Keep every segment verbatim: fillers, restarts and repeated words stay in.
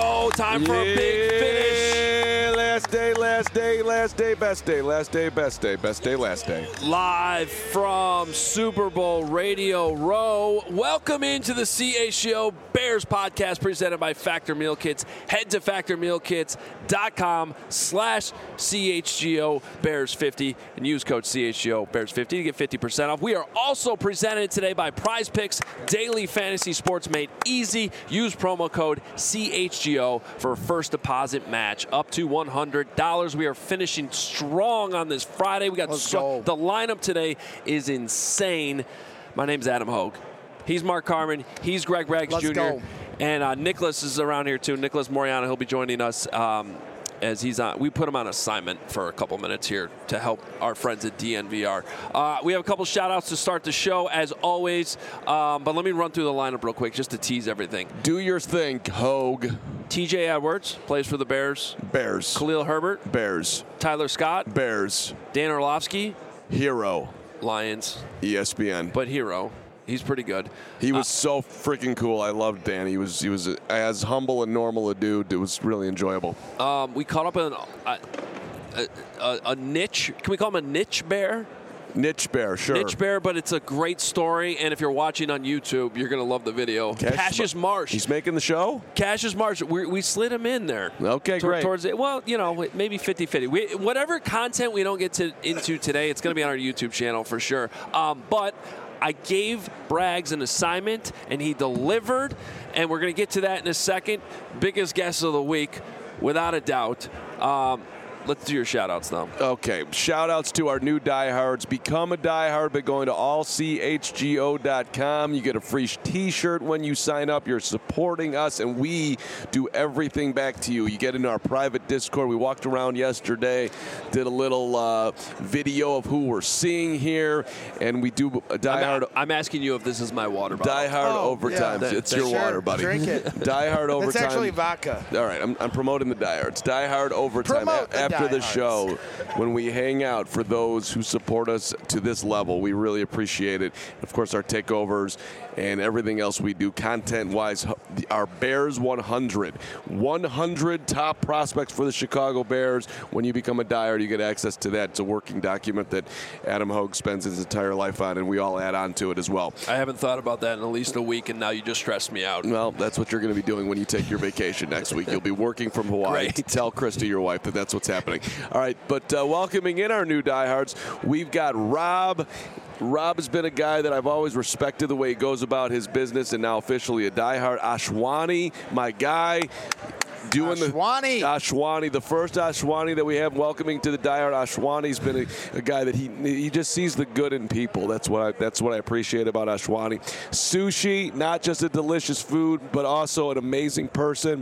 go. Time for yeah, a big finish. Last day, last day, last day, best day, last day, best day, best day, last day. Live from Super Bowl Radio Row. Welcome into the C H G O Bears podcast presented by Factor Meal Kits. Head to factor meal kits dot com slash C H G O Bears fifty and use code C H G O Bears fifty to get fifty percent off. We are also presented today by Prize Picks, daily fantasy sports made easy. Use promo code C H G O for a first deposit match up to one hundred dollars. We are finishing strong on this Friday. We got so, the lineup today is insane. My name's Adam Hogue. He's Mark Carman. He's Greg Braggs Let's Junior go. And uh, Nicholas is around here too. Nicholas Moriano, he'll be joining us um, as he's on. We put him on assignment for a couple minutes here to help our friends at D N V R. Uh, we have a couple shout outs to start the show as always. Um, but let me run through the lineup real quick just to tease everything. Do your thing, Hogue. T J Edwards plays for the Bears. Bears. Khalil Herbert. Bears. Tyler Scott. Bears. Dan Orlovsky. Hero. Lions. E S P N. But hero. He's pretty good. He was uh, so freaking cool. I loved Dan. He was he was as humble and normal a dude. It was really enjoyable. Um, we caught up in a, a, a, a niche. Can we call him a niche bear? Niche bear, sure. Niche bear, but it's a great story. And if you're watching on YouTube, you're going to love the video. Cassius, Cassius Marsh. He's making the show? Cassius Marsh. We, we slid him in there. Okay, T- great. Towards it. Well, you know, maybe fifty-fifty. We, whatever content we don't get to into today, it's going to be on our YouTube channel for sure. Um, but I gave Braggs an assignment, and he delivered, and we're going to get to that in a second. Biggest guest of the week, without a doubt. Um, let's do your shout-outs now. Okay, shout-outs to our new diehards. Become a diehard by going to all c h g o dot com. You get a free T-shirt when you sign up. You're supporting us, and we do everything back to you. You get into our private Discord. We walked around yesterday, did a little uh, video of who we're seeing here, and we do a diehard. I'm, I'm asking you if this is my water bottle. Diehard Oh, overtime. yeah. It's Sure, your water, buddy. drink it. Diehard overtime. It's actually vodka. All right, I'm, I'm promoting the diehards. Diehard overtime. Promote the After the diehards. show, when we hang out for those who support us to this level, we really appreciate it. Of course, our takeovers and everything else we do content-wise. Our Bears one hundred. one hundred top prospects for the Chicago Bears. When you become a diehard, you get access to that. It's a working document that Adam Hogue spends his entire life on, and we all add on to it as well. I haven't thought about that in at least a week, and now you just stressed me out. Well, that's what you're going to be doing when you take your vacation next week. You'll be working from Hawaii. Great. Tell Krista, your wife, that that's what's happening. All right, but uh, welcoming in our new diehards, we've got Rob. Rob has been a guy that I've always respected the way he goes about his business, and now officially a diehard. Ashwani, my guy. Doing Ashwani. the Ashwani, the first Ashwani that we have welcoming to the diehard. Ashwani's been a, a guy that he he just sees the good in people. That's what I, that's what I appreciate about Ashwani. Sushi, not just a delicious food, but also an amazing person.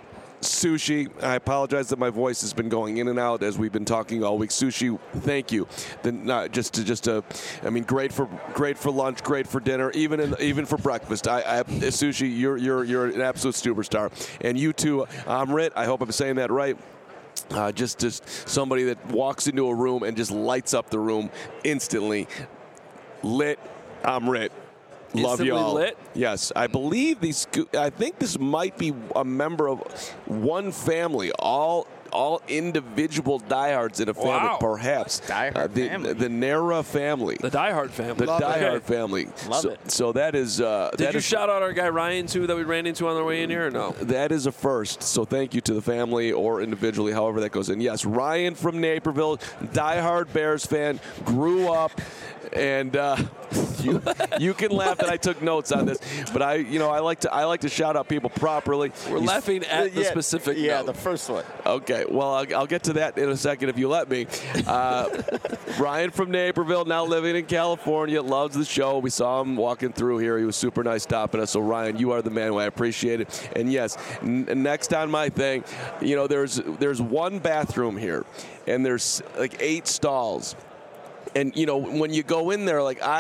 Sushi, I apologize that my voice has been going in and out as we've been talking all week. Sushi, thank you. Then not just to just a, I mean, great for great for lunch, great for dinner, even in, even for breakfast. I, I Sushi, you're you're you're an absolute superstar, and you too, Amrit. I hope I'm saying that right. Uh, just just somebody that walks into a room and just lights up the room instantly. Lit, Amrit. Love Instantly y'all. lit? Yes, I believe these. I think this might be a member of one family. All all individual diehards in a family, Wow. perhaps. Diehard uh, the, family. The Nera family. The Die Hard family. The Love Die it. Hard family. Love so, it. So that is. Uh, Did that you is, shout out our guy Ryan, too, that we ran into on the way in here, or no? That is a first. So thank you to the family or individually, however that goes in. Yes, Ryan from Naperville, diehard Bears fan, grew up, and uh, you you can laugh that I took notes on this, but I you know I like to I like to shout out people properly. We're He's- laughing at the Yeah, specific Yeah, note. the first one. Okay, well, I'll, I'll get to that in a second if you let me. Uh, Ryan from Naperville, now living in California, loves the show. We saw him walking through here. He was super nice stopping us. So, Ryan, you are the man. I appreciate it. And, yes, n- next on my thing, you know, there's there's one bathroom here, and there's like eight stalls. And, you know, when you go in there, like I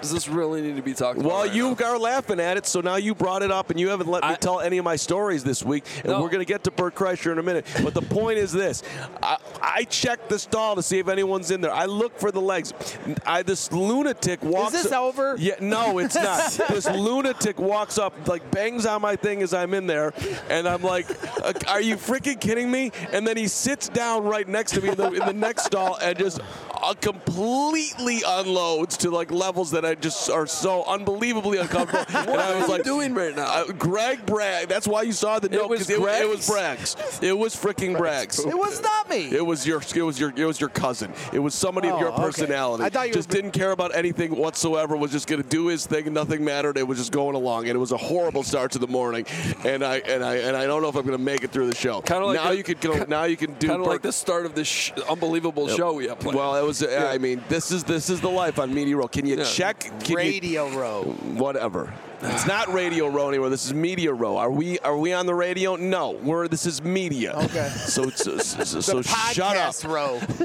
Does this really need to be talked about? Well, right you now? are laughing at it, so now you brought it up, and you haven't let me I, tell any of my stories this week. And no. we're going to get to Bert Kreischer in a minute. But the point is this. I, I checked the stall to see if anyone's in there. I look for the legs. I, this lunatic walks Is this up, over? Yeah, no, it's not. This lunatic walks up, like bangs on my thing as I'm in there, and I'm like, are you freaking kidding me? And then he sits down right next to me in the, in the next stall and just uh, completely unloads to like levels that I just are so unbelievably uncomfortable. What and I are was you like, doing right now? Uh, Greg Bragg. That's why you saw the note. was 'cause it, it was Greg's? Bragg's. It was freaking Bragg's. It was not me. It was your. It was your. It was your cousin. It was somebody Oh, of your okay. personality. I thought you just were- didn't care about anything whatsoever. Was just going to do his thing. Nothing mattered. It was just going along, and it was a horrible start to the morning. And I and I and I don't know if I'm going to make it through the show. Kinda like now the- you can go. Now you can do. Kind of like Bert- the start of this sh- unbelievable show we have planned. Well, it was. I mean, this is this is the life on Media Row. Can you Yeah. check? Can Radio Row. You, whatever. It's not Radio Row anymore. This is Media Row. Are we? Are we on the radio? No. We're. This is media. Okay. So it's so, so, so The shut up. podcast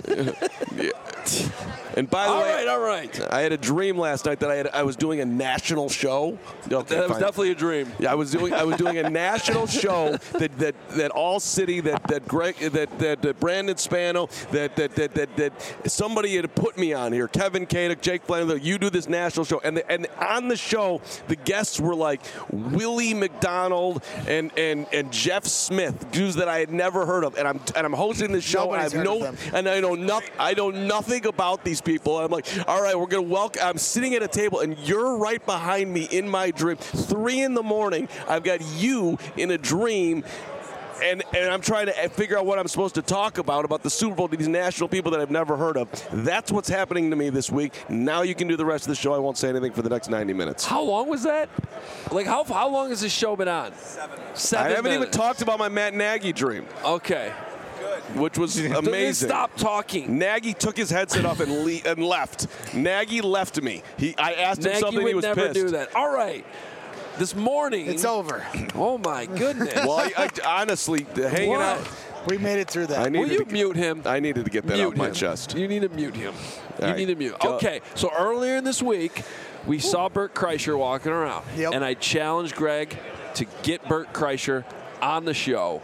row. Yeah. And by the all way, right, all right. I had a dream last night that I had. I was doing a national show. Okay, That was fine. definitely a dream. Yeah, I was doing. I was doing a national show that that that all city that that Greg that that, that Brandon Spano that that, that that that somebody had put me on here. Kevin Kadick, Jake Flanagan. You do this national show, and the, and on the show the guests were like Willie McDonald and and and Jeff Smith, dudes that I had never heard of, and I'm and I'm hosting this show. Nobody's and I have heard no of them. and I know nothing. I know nothing about these people. I'm like, all right, we're gonna welcome. I'm sitting at a table, and you're right behind me in my dream. Three in the morning, I've got you in a dream. And, and I'm trying to figure out what I'm supposed to talk about, about the Super Bowl to these national people that I've never heard of. That's what's happening to me this week. Now you can do the rest of the show. I won't say anything for the next ninety minutes. How long was that? Like, how how long has this show been on? Seven. Seven I haven't even minutes. talked about my Matt Nagy dream, Okay. which was Then amazing. Stop talking. Nagy took his headset off and, le- and left. Nagy left me. He, I asked him Nagy something. would He was never pissed. do that. All right. This morning. It's over. Oh my goodness. Well, I, I, honestly, hanging What? out. We made it through that. I Will needed you to, mute him? I needed to get that mute off my him. chest. You need to mute him. You All right. need to mute. Go. Okay, so earlier in this week, we saw Bert Kreischer walking around. Yep. And I challenged Greg to get Bert Kreischer on the show.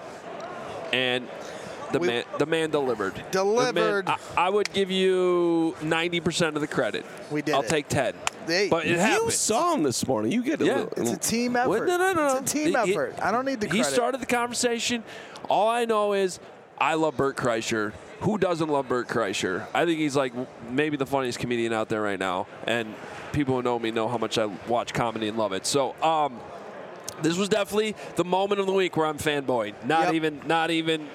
And the We- man the man delivered. The man- Delivered. I, I would give you ninety percent of the credit. We did I'll it. take ten. They- but it You happened. saw him this morning. You get a Yeah. little. It's a team effort. Well, no, no, no, no. It's a team He- effort. I don't need the He credit. started the conversation. All I know is I love Bert Kreischer. Who doesn't love Bert Kreischer? I think he's like maybe the funniest comedian out there right now. And people who know me know how much I watch comedy and love it. So um, this was definitely the moment of the week where I'm fanboying. Not Yep. even, not even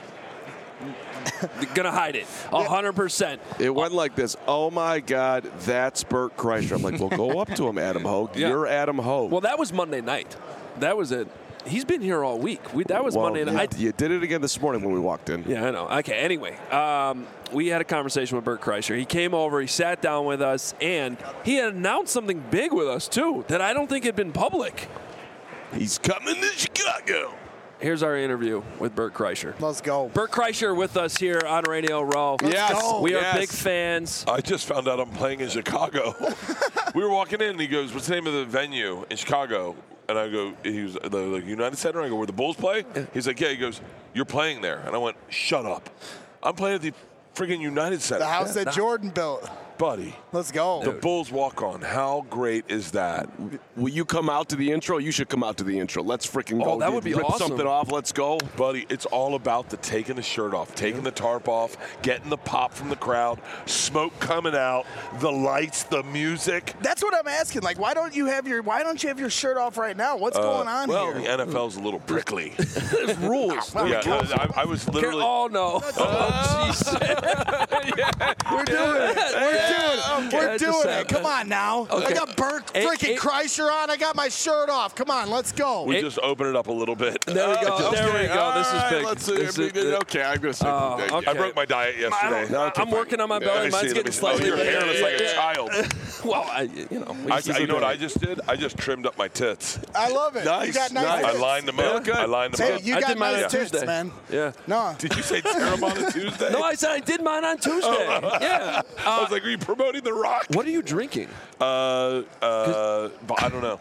gonna hide it. A hundred percent. It went like this. Oh my God, that's Bert Kreischer. I'm like, well, go up to him, Adam Hogue. Yeah. You're Adam Hogue. Well, that was Monday night. That was it. He's been here all week. We, that was Well, Monday you, night. you did it again this morning when we walked in. Yeah, I know. Okay, anyway, um, we had a conversation with Bert Kreischer. He came over, he sat down with us, and he had announced something big with us, too, that I don't think had been public. He's coming to Chicago. Here's our interview with Bert Kreischer. Let's go. Bert Kreischer with us here on Radio Row. Yes, go. We are yes. big fans. I just found out I'm playing in Chicago. We were walking in, and he goes, "What's the name of the venue in Chicago?" And I go, "He was the like, United Center." I go, "Where the Bulls play?" He's like, "Yeah." He goes, "You're playing there," and I went, "Shut up! I'm playing at the friggin' United Center." The house that Jordan built. buddy. Let's go. The Bulls walk on. How great is that? Will you come out to the intro? You should come out to the intro. Let's freaking go. Oh, that would be Rip awesome. something off. Let's go. Buddy, it's all about the taking the shirt off, taking the tarp off, getting the pop from the crowd, smoke coming out, the lights, the music. That's what I'm asking. Like, why don't you have your Why don't you have your shirt off right now? What's going on well, here? the N F L's a little prickly. There's rules. Well, yeah, we I, I was literally. Oh, no. Oh, jeez. We're doing it. We're doing it. We're That's doing just it. Come on now. Okay. I got Bert Eight- freaking eight- Kreischer on. I got my shirt off. Come on, let's go. we It- just open it up a little bit. There we go. Okay, There we go. This is all right, big. Let's see. This is- okay, I'm going to say. Oh, okay. I broke my diet I yesterday. don't, I'm working on my Let belly. me Mine's see, let getting me see. slightly Oh, your hair bigger. looks like a Yeah. child. Well, I, you know. I, you know what I just did? I just trimmed up my tits. I love it. Nice, You got nice. nice. I tits. lined them up. Yeah, I lined them Hey, up. you I got did mine nice on tits, Tuesday. man. Yeah. No. Did you say tear them on a Tuesday? No, I said I did mine on Tuesday. Yeah. I was like, are you promoting The Rock? What are you drinking? Uh, uh, but I don't know.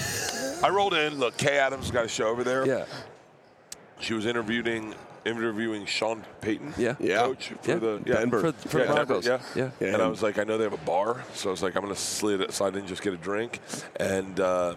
I rolled in. Look, Kay Adams got a show over there. Yeah. She was interviewing interviewing Sean Payton, Yeah. Yeah. coach for Yeah. the yeah. Denver. For, for yeah, the Broncos. Denver, yeah. Yeah. Yeah. And I was like, I know they have a bar, so I was like, I'm gonna slide slide in, just get a drink, and uh,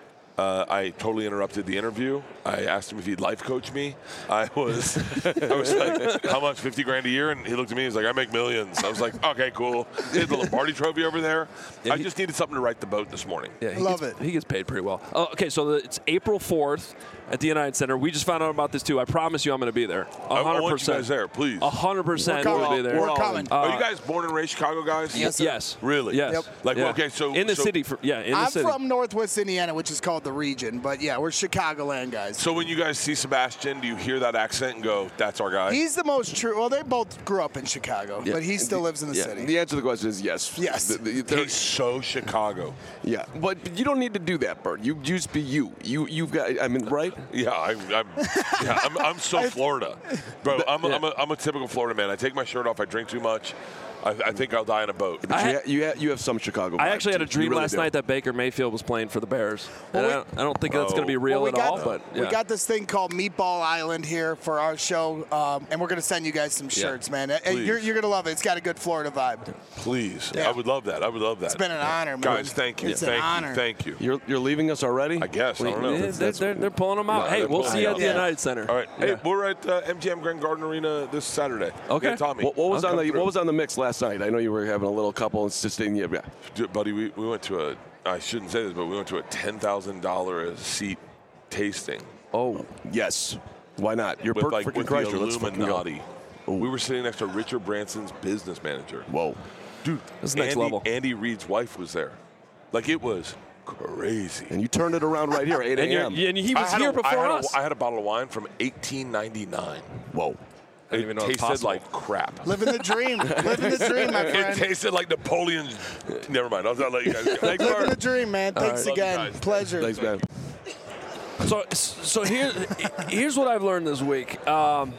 uh, I totally interrupted the interview. I asked him if he'd life coach me. I was, I was like, how much? Fifty grand a year? And he looked at me. He's like, I make millions. I was like, okay, cool. He had the Lombardi Trophy over there. Yeah, I he- just needed something to write the boat this morning. Yeah, he Love gets, it. He gets paid pretty well. Oh, okay, so the, it's April fourth at the United Center. We just found out about this too. I promise you, I'm going to be there. I, I hundred want you percent. guys there, please. A hundred percent, We're we'll coming. be there. We're all coming. in. Are you guys born and raised Chicago guys? Yes, sir. Yes. Really? Yes. Yep. Like, Yeah. okay, so in the so, city. For, yeah, in the I'm city. from Northwest Indiana, which is called the region, but yeah, we're Chicagoland guys. So when you guys see Sebastian, do you hear that accent and go, "That's our guy"? He's the most true. Well, they both grew up in Chicago, Yeah. but he still lives in the Yeah. city. The answer to the question is yes. Yes. The- the- there- He's so Chicago. yeah, but you don't need to do that, Bert. You just be you. You you've got. I mean, right? Yeah, I'm. I'm, yeah, I'm, I'm so Florida, bro. I'm, Yeah. I'm, a, I'm a typical Florida man. I take my shirt off. I drink too much. I, I think I'll die in a boat. But I you, had- ha- you, ha- you have some Chicago. I vibe, actually had too. a dream You really last do. night that Baker Mayfield was playing for the Bears. Well, And we- I, don't, I don't think that's going to be Oh. real Well, we at got all, the- but yeah. we got this thing called Meatball Island here for our show, um, and we're going to send you guys some shirts, man. And Please. you're, you're going to love it. It's got a good Florida vibe. Please, Yeah. I would love that. I would love that. It's been an honor, man. guys. Thank you. It's an thank honor. you. Thank you. You're you're leaving us already? I guess. I don't know. Yeah, That's- they're, that's- they're, they're pulling them out. Yeah, hey, they're we'll pulling see you them at the out. United Center. All right. Yeah. Hey, we're at uh, M G M Grand Garden Arena this Saturday. Okay. Me and Tommy. What, what was Okay. on the What was on the mix last night? I know you were having a little couple. It's just in yeah. Dude, buddy, we, we went to a. I shouldn't say this, but we went to a ten thousand dollar a seat tasting Oh yes. Why not? You're with Bert like freaking with the Kreischer. Let's fucking go. Illuminati. We were sitting next to Richard Branson's business manager. Whoa. Dude, That's next Andy, level. Andy Reid's wife was there. Like it was crazy. And you turned it around right here, eight And, you're, a.m. and he I was had here a- I before had a- us. I had a bottle of wine from eighteen ninety-nine. Whoa. I didn't It even know it was tasted possible. like crap. Living the dream. Living the dream, my It friend. tasted like Napoleon's. Never mind. I'll let you guys go. Thanks, Living the Bart. dream, man. Thanks Love you again. guys. Pleasure. Thanks, man. So, so here, here's what I've learned this week. Um,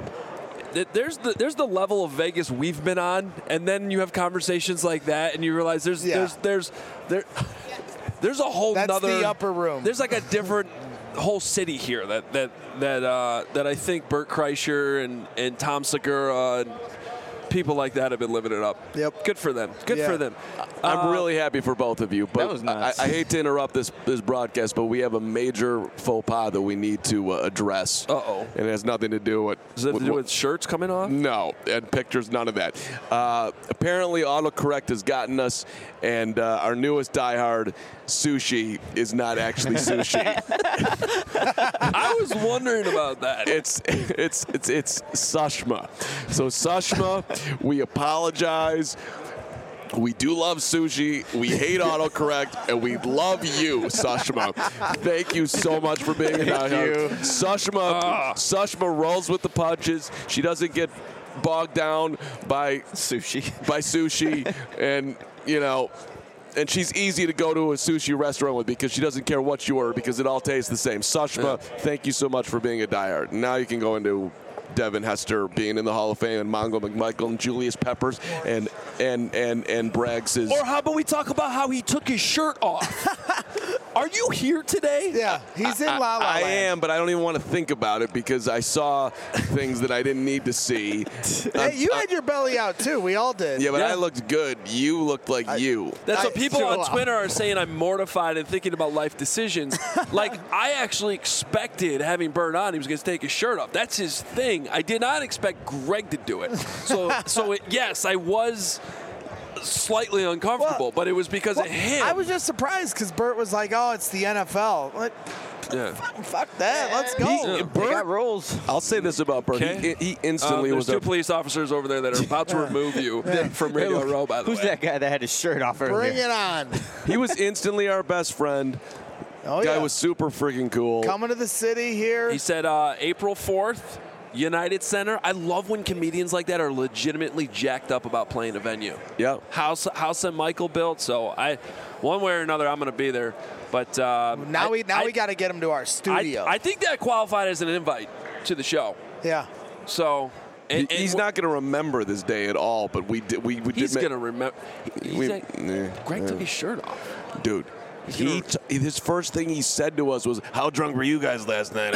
th- there's the there's the level of Vegas we've been on, and then you have conversations like that, and you realize there's Yeah. there's there's there there's a whole That's nother the upper room. There's like a different whole city here that that that uh, that I think Bert Kreischer and and Tom Segura and people like that have been living it up. Yep. Good for them. Good Yeah. for them. I'm Uh, really happy for both of you. But That was nuts. I, I hate to interrupt this this broadcast, but we have a major faux pas that we need to uh, address. Uh-oh. And it has nothing to do with. Does it have to do with shirts coming off? No, and pictures, none of that. Uh, apparently, autocorrect has gotten us, and uh, our newest diehard, sushi, is not actually sushi. I was wondering about that. It's it's it's it's Sushma. So Sushma, we apologize. We do love sushi. We hate autocorrect, and we love you, Sushma. Thank you so much for being a diehard. Sushma, Sushma rolls with the punches. She doesn't get bogged down by Sushi. by sushi, and you know. And she's easy to go to a sushi restaurant with because she doesn't care what you order because it all tastes the same. Sushma, thank you so much for being a diehard. Now you can go into Devin Hester being in the Hall of Fame and Mongo McMichael and Julius Peppers and and and and Braggs is. Or how about we talk about how he took his shirt off? Are you here today? Yeah, he's in La La I Land. am, but I don't even want to think about it because I saw things that I didn't need to see. Hey, you had your belly out too. We all did. Yeah, but Yeah. I looked good. You looked like you. That's I- what people so, on uh, Twitter are saying. I'm mortified and thinking about life decisions. Like, I actually expected having Bert on, he was going to take his shirt off. That's his thing. I did not expect Greg to do it. So, so it, yes, I was slightly uncomfortable, Well, but it was because Well, of him. I was just surprised because Bert was like, "Oh, it's the N F L." Like, yeah. fuck that. Let's go. He- They got rules. I'll say this about Bert. Okay. He, he Um, instantly there's was two a police officers over there that are about to remove you from Radio Row, by the Who's way. that guy that had his shirt off earlier? Bring it on. He was instantly our best friend. Oh Guy yeah. was super freaking cool. Coming to the city here. He said uh, April fourth United Center. I love when comedians like that are legitimately jacked up about playing a venue. Yeah. House House that Michael built. So I, one way or another, I'm going to be there. But uh, Now I, we now I, we got to get him to our I, studio. I think that qualified as an invite to the show. yeah. So and, He- he's and not going to remember this day at all, but we did. We, we He's did. going to remember. We- Like, yeah, Greg yeah. took his shirt off. Dude. He gonna- t- his first thing he said to us was, "How drunk were you guys last night?"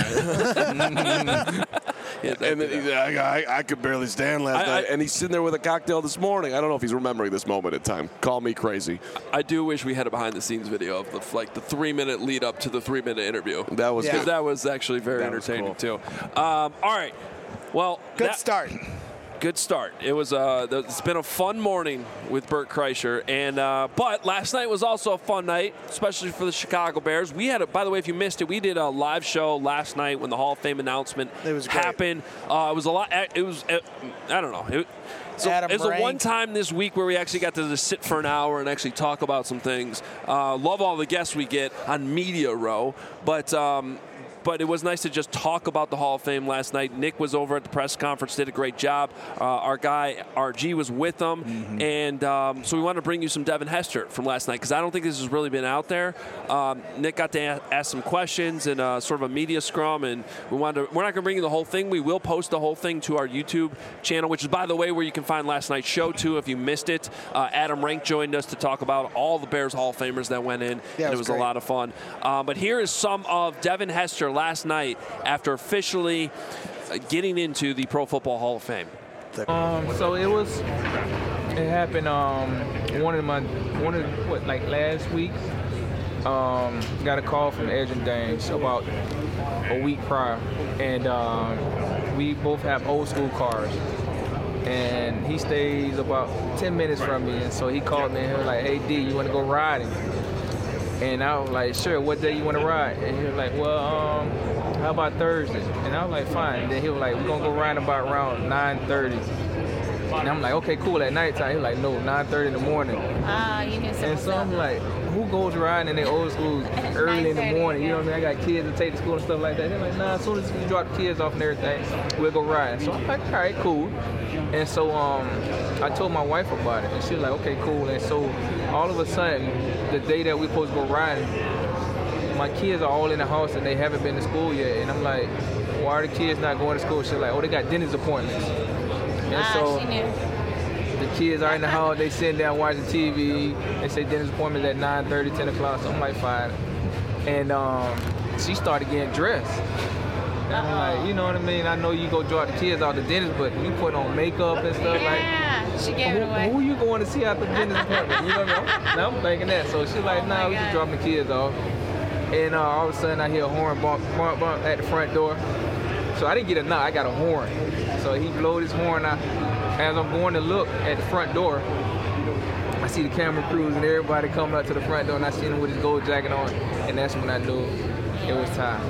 Yeah, and then he's like, I, I, I could barely stand last I- night. I- and he's sitting there with a cocktail this morning. I don't know if he's remembering this moment in time. Call me crazy. I do wish we had a behind-the-scenes video of the like the three-minute lead up to the three-minute interview. That was Yeah. Because good. that was actually very That was entertaining cool. too. Um, all right, well, Good that- start. Good start. It was. Uh, th- it's been a fun morning with Bert Kreischer, and uh, but last night was also a fun night, especially for the Chicago Bears. We had, a, by the way, if you missed it, we did a live show last night when the Hall of Fame announcement It was great. happened. Uh, it was a lot. It was. Uh, I don't know. It, so Adam it's a Rank. one time this week where we actually got to just sit for an hour and actually talk about some things. Uh, love all the guests we get on Media Row, but. Um, But it was nice to just talk about the Hall of Fame last night. Nick was over at the press conference, did a great job. Uh, our guy, R G, was with them. Mm-hmm. And um, so we wanted to bring you some Devin Hester from last night because I don't think this has really been out there. Um, Nick got to a- ask some questions and uh, sort of a media scrum. And we wanted to, we're not going to bring you the whole thing. We will post the whole thing to our YouTube channel, which is, by the way, where you can find last night's show, too, if you missed it. Uh, Adam Rank joined us to talk about all the Bears Hall of Famers that went in. Yeah, and it it was was a great. lot of fun. Uh, but here is some of Devin Hester last night after officially uh, getting into the Pro Football Hall of Fame. Um, so it was, it happened, um, one of my, one of, what, like last week, um, got a call from Adrian Dames about a week prior, and um, we both have old school cars, and he stays about ten minutes from me, and so he called me and he was like, hey D, you want to go riding? And I was like, sure, what day you want to ride? And he was like, well, um, how about Thursday? And I was like, fine. And then he was like, we're going to go riding about around nine thirty. And I'm like, okay, cool, at nighttime. He was like, no, nine thirty in the morning. Ah, you knew And something. so I'm like, who goes riding in their old schools early in the nine thirty, morning? You know what I yeah. mean? I got kids to take to school and stuff like that. They're like, nah, as soon as you drop the kids off and everything, we'll go riding. So I'm like, all right, cool. And so um, I told my wife about it, and she was like, okay, cool. And so all of a sudden, the day that we supposed to go riding, my kids are all in the house and they haven't been to school yet. And I'm like, why are the kids not going to school? She's like, oh, they got dentist appointments. And Ah, so she knew. the kids are in the house, they sitting down watching T V. They say dentist appointments at nine thirty, ten o'clock. So I'm like, fine. And um, she started getting dressed. And I'm like, you know what I mean? I know you go drop the kids out the dentist, but you put on makeup and stuff like. Yeah, she gave Who, it away. who you going to see at the dentist appointment? You know what I mean? Now I'm thinking that. So she's like, nah, Oh my we just God. dropping the kids off. And uh, all of a sudden I hear a horn bump, bump, bump at the front door. So I didn't get a knock, I got a horn. So he blowed his horn out. As I'm going to look at the front door, I see the camera crews and everybody coming up to the front door, and I see him with his gold jacket on. And that's when I knew it was time.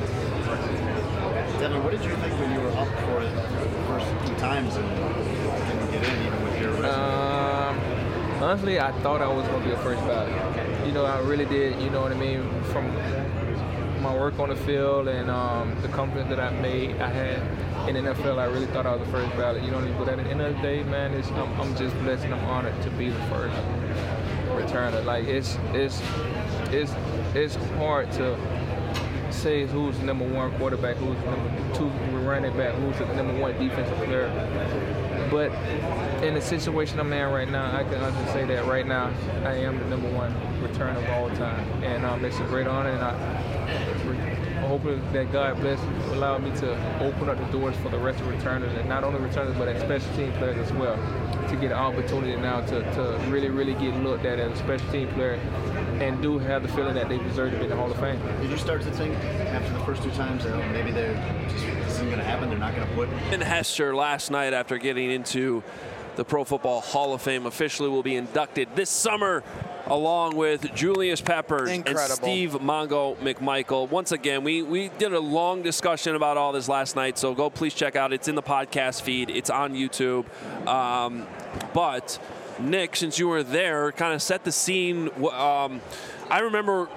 Devin, what did you think when you were up for it the first few times and didn't get in, even with your resume? Um, honestly, I thought I was going to be a first ballot. You know, I really did, you know what I mean, from my work on the field and um, the confidence that I made, I had in the N F L, I really thought I was the first ballot. You know what I mean? But at the end of the day, man, it's, I'm, I'm just blessed and I'm honored to be the first returner. Like, it's, it's, it's, it's hard to say who's the number one quarterback, who's the number two running back, who's the number one defensive player. But in the situation I'm in right now, I can honestly say that right now I am the number one returner of all time, and um, it's a great honor. And I, I hope that God bless allow me to open up the doors for the rest of returners, and not only returners but as special team players as well, to get an opportunity now to, to really, really get looked at as a special team player, and do have the feeling that they deserve to be in the Hall of Fame. Did you start to think after the first two times that oh, maybe they're just, this isn't going to happen, they're not going to put And Hester last night after getting into the Pro Football Hall of Fame officially will be inducted this summer along with Julius Peppers Incredible. and Steve Mongo McMichael. Once again, we, we did a long discussion about all this last night, so go please check out. It's in the podcast feed. It's on YouTube. Um, but, Nick, since you were there, kind of set the scene. Um, I remember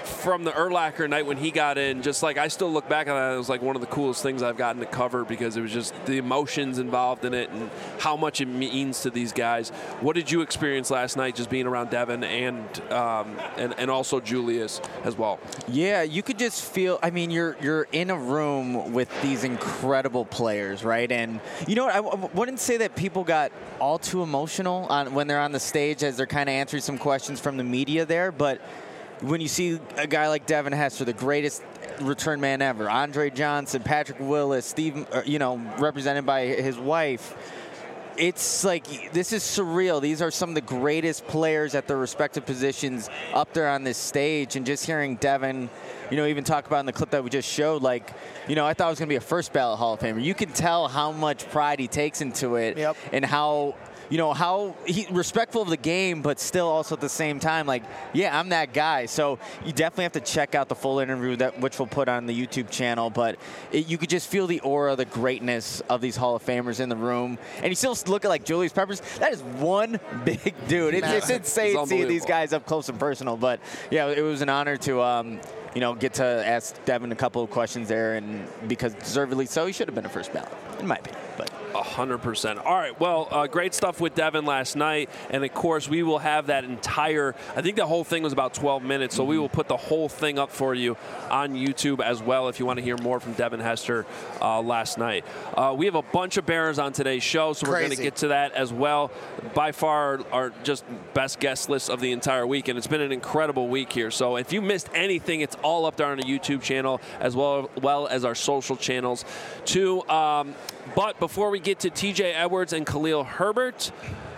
from the Urlacher night when he got in, just like I still look back on that, it was like one of the coolest things I've gotten to cover because it was just the emotions involved in it and how much it means to these guys. What did you experience last night just being around Devin and um, and, and also Julius as well? Yeah, you could just feel, I mean, you're you're in a room with these incredible players, right? And you know what, I, I wouldn't say that people got all too emotional on when they're on the stage as they're kind of answering some questions from the media there, but when you see a guy like Devin Hester, the greatest return man ever, Andre Johnson, Patrick Willis, Steve, you know, represented by his wife, it's like this is surreal. These are some of the greatest players at their respective positions up there on this stage, and just hearing Devin, you know, even talk about in the clip that we just showed, like, you know, I thought it was going to be a first ballot Hall of Famer. You can tell how much pride he takes into it, yep. and how, you know, how he respectful of the game, but still also at the same time, like, yeah, I'm that guy. So you definitely have to check out the full interview, that which we'll put on the YouTube channel. But it, you could just feel the aura, the greatness of these Hall of Famers in the room. And you still look at like Julius Peppers. That is one big dude. It's, it's insane it's seeing these guys up close and personal. But yeah, it was an honor to. Um, you know, get to ask Devin a couple of questions there, and because deservedly so, he should have been a first ballot, in my opinion. But one hundred percent. All right, well, uh, great stuff with Devin last night, and of course, we will have that entire, I think the whole thing was about twelve minutes, so mm-hmm. we will put the whole thing up for you on YouTube as well if you want to hear more from Devin Hester uh, last night. Uh, we have a bunch of Bears on today's show, so we're going to get to that as well. By far, our just best guest list of the entire week, and it's been an incredible week here. So if you missed anything, it's all up there on the YouTube channel as well, well as our social channels too. Um, but before we get to T J Edwards and Khalil Herbert,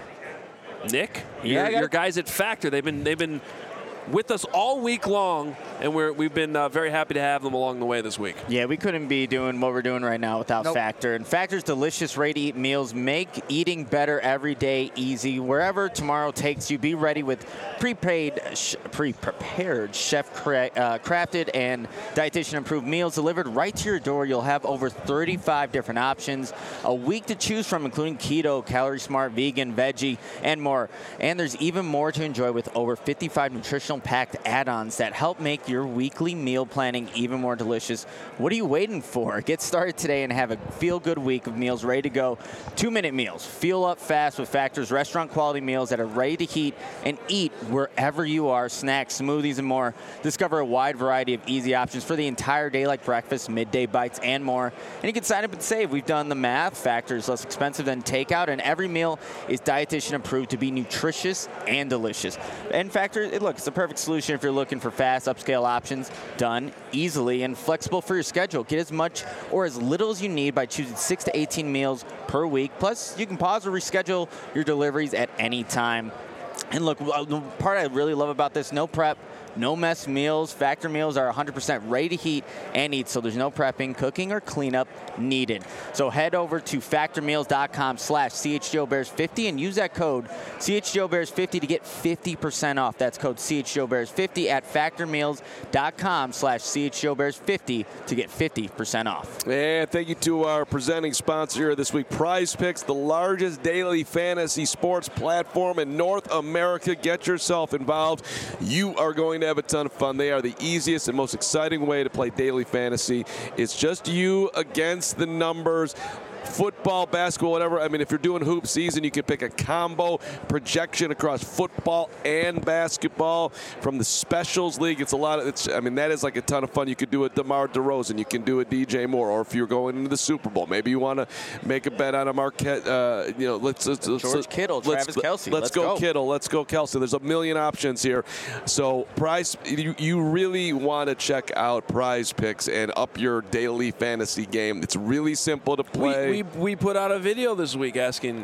Nick, yeah, your, your guys at Factor, they've been they've been with us all week long, and we're, we've been uh, very happy to have them along the way this week. Yeah, we couldn't be doing what we're doing right now without nope. Factor. And Factor's delicious, ready-to-eat meals make eating better every day easy. Wherever tomorrow takes you, be ready with prepaid, sh- pre-prepared, chef-crafted, uh, and dietitian-approved meals delivered right to your door. You'll have over thirty-five different options, a week to choose from, including keto, calorie smart, vegan, veggie, and more. And there's even more to enjoy with over fifty-five nutritional packed add-ons that help make your weekly meal planning even more delicious. What are you waiting for? Get started today and have a feel-good week of meals ready to go. Two-minute meals. Fuel up fast with Factor's restaurant-quality meals that are ready to heat and eat wherever you are. Snacks, smoothies, and more. Discover a wide variety of easy options for the entire day, like breakfast, midday bites, and more. And you can sign up and save. We've done the math. Factor is less expensive than takeout, and every meal is dietitian-approved to be nutritious and delicious. And Factor, it, look, it's a perfect solution if you're looking for fast, upscale options, done easily and flexible for your schedule. Get as much or as little as you need by choosing six to eighteen meals per week. Plus, you can pause or reschedule your deliveries at any time. And look, the part I really love about this, no prep, no mess meals. Factor meals are one hundred percent ready to heat and eat, so there's no prepping, cooking, or cleanup needed. So head over to factormeals.com slash CHGOBears50 and use that code C H G O Bears fifty to get fifty percent off. That's code C H G O Bears fifty at factormeals.com slash CHGOBears50 to get fifty percent off. And thank you to our presenting sponsor here this week, Prize Picks, the largest daily fantasy sports platform in North America. Get yourself involved. You are going to have a ton of fun. They are the easiest and most exciting way to play daily fantasy. It's just you against the numbers. Football, basketball, whatever. I mean, if you're doing hoop season, you can pick a combo projection across football and basketball from the Specials League. It's a lot of, it's, I mean, that is like a ton of fun. You could do a DeMar DeRozan. You can do a D J Moore. Or if you're going into the Super Bowl, maybe you want to make a bet on a Marquette, uh, you know, let's, let's, let's George Kittle, let's, Travis Kelce. Let's, let's go, go Kittle. Let's go Kelce. There's a million options here. So Prize, you, you really want to check out Prize Picks and up your daily fantasy game. It's really simple to play. We, we, we put out a video this week asking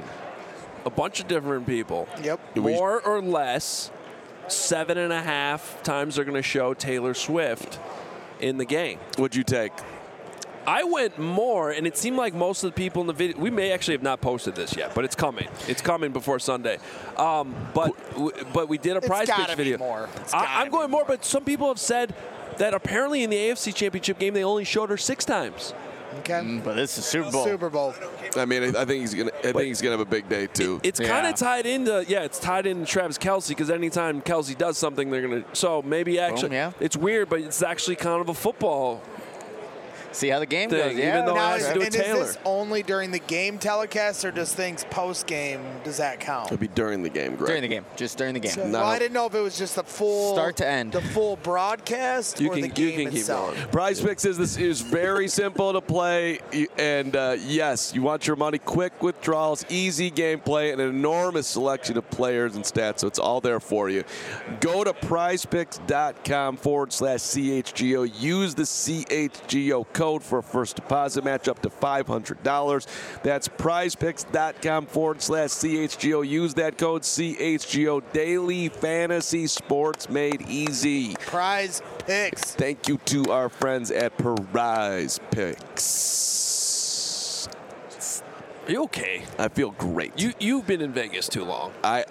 a bunch of different people. Yep. More or less, seven and a half times they're going to show Taylor Swift in the game. What'd you take? I went more, and it seemed like most of the people in the video, we may actually have not posted this yet, but it's coming. It's coming before Sunday. Um, but but we did a prize it's pitch gotta video. Be more. I, I'm going more, more, but some people have said that apparently in the A F C Championship game they only showed her six times. Okay. Mm, but this is Super Bowl. Super Bowl. I mean, I, I think he's gonna. I think he's gonna have a big day too. It's Yeah. kind of tied into yeah, it's tied into Travis Kelce because anytime Kelce does something, they're gonna. So maybe actually, Boom, yeah. it's weird, but it's actually kind of a football. See how the game Thing, goes. Yeah. even though- Now, it has is, to do and with is Taylor. this only during the game telecast, or does things post game? Does that count? It'll be during the game, Greg. during the game, just during the game. So, No. well, I didn't know if it was just the full Start to end. the full broadcast, You or can- the you game can keep itself. going. Prize Picks is this is very simple to play, You- and uh, yes, you want your money, quick withdrawals, easy gameplay, and an enormous selection of players and stats. So it's all there for you. Go to prizepicks.com forward slash CHGO. Use the C H G O code for a first deposit match up to five hundred dollars. That's prizepicks.com forward slash CHGO. Use that code C H G O. Daily fantasy sports made easy. Prize picks. Thank you to our friends at Prize Picks. Are you okay? I feel great. You you've been in Vegas too long. I.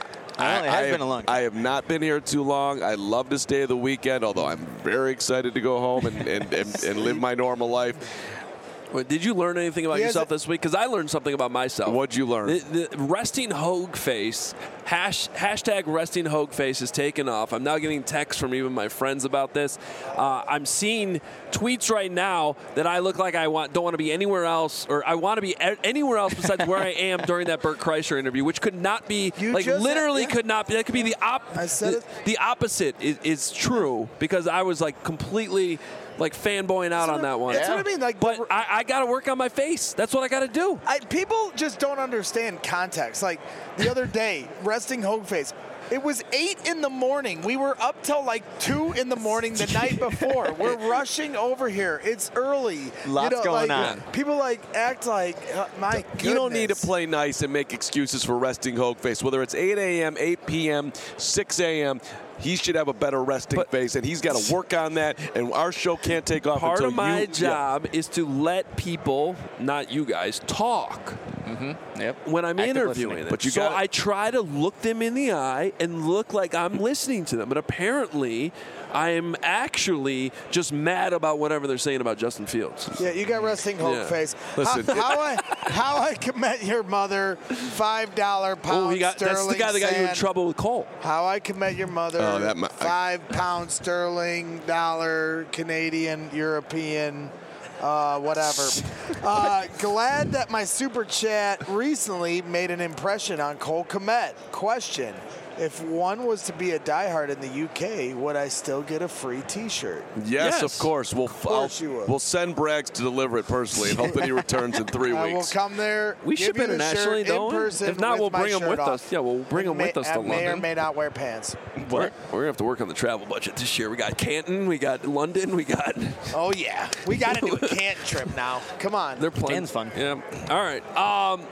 I know, it has have, been a long I have not been here too long. I love to stay the weekend, although I'm very excited to go home and, and, and, and live my normal life. Wait, did you learn anything about He has yourself a- this week? Because I learned something about myself. What'd you learn? The, the resting hogue face, hash, hashtag resting hogue face is taken off. I'm now getting texts from even my friends about this. Uh, I'm seeing tweets right now that I look like I want don't want to be anywhere else, or I want to be a- anywhere else besides where I am during that Bert Kreischer interview, which could not be, You like just- literally yeah. could not be. That could be the op. I said the, it. the opposite is, is true because I was like completely like fanboying out on that one. That's what I mean. Like, But the- I, I got to work on my face. That's what I got to do. I, people just don't understand context. Like the other day, resting hogue face. It was eight in the morning. We were up till like two in the morning the night before. We're rushing over here. It's early. Lots you know, going like, on. People like act like uh, my goodness. You don't need to play nice and make excuses for resting hogue face. Whether it's eight a.m., eight p.m., six a.m., he should have a better resting But- face, and he's got to work on that. And our show can't take off Part until of my you, job is to let people, not you guys, talk Yep. when I'm Active interviewing listening. them. But you so gotta- I try to look them in the eye and look like I'm listening to them. But apparently, I am actually just mad about whatever they're saying about Justin Fields. Yeah, you got resting hogue Yeah. face. Listen. how, how I how I can met your mother five dollar pound Oh, he got that's the sterling guy that got you in sand. trouble with Cole. How I can met your mother Oh, that mi- I- five pound sterling dollar Canadian European. Uh, whatever. Uh, glad that my super chat recently made an impression on Cole Kmet. Question: if one was to be a diehard in the U K, would I still get a free T-shirt? Yes, Yes. of course. We'll, course I'll- you would. we'll send Braggs to deliver it personally and hope that he returns in three I will weeks. come there. We give ship you the internationally, shirt don't in we? person If not, with we'll my bring 'em shirt with off. us. Yeah, we'll bring 'em may, with us to I may or London. may not wear pants. We're, we're gonna have to work on the travel budget this year. We got Canton, we got London, we got. Oh yeah, we got to do a Canton trip now. Come on. They're playing. Canton's fun. Yeah. All right. Um,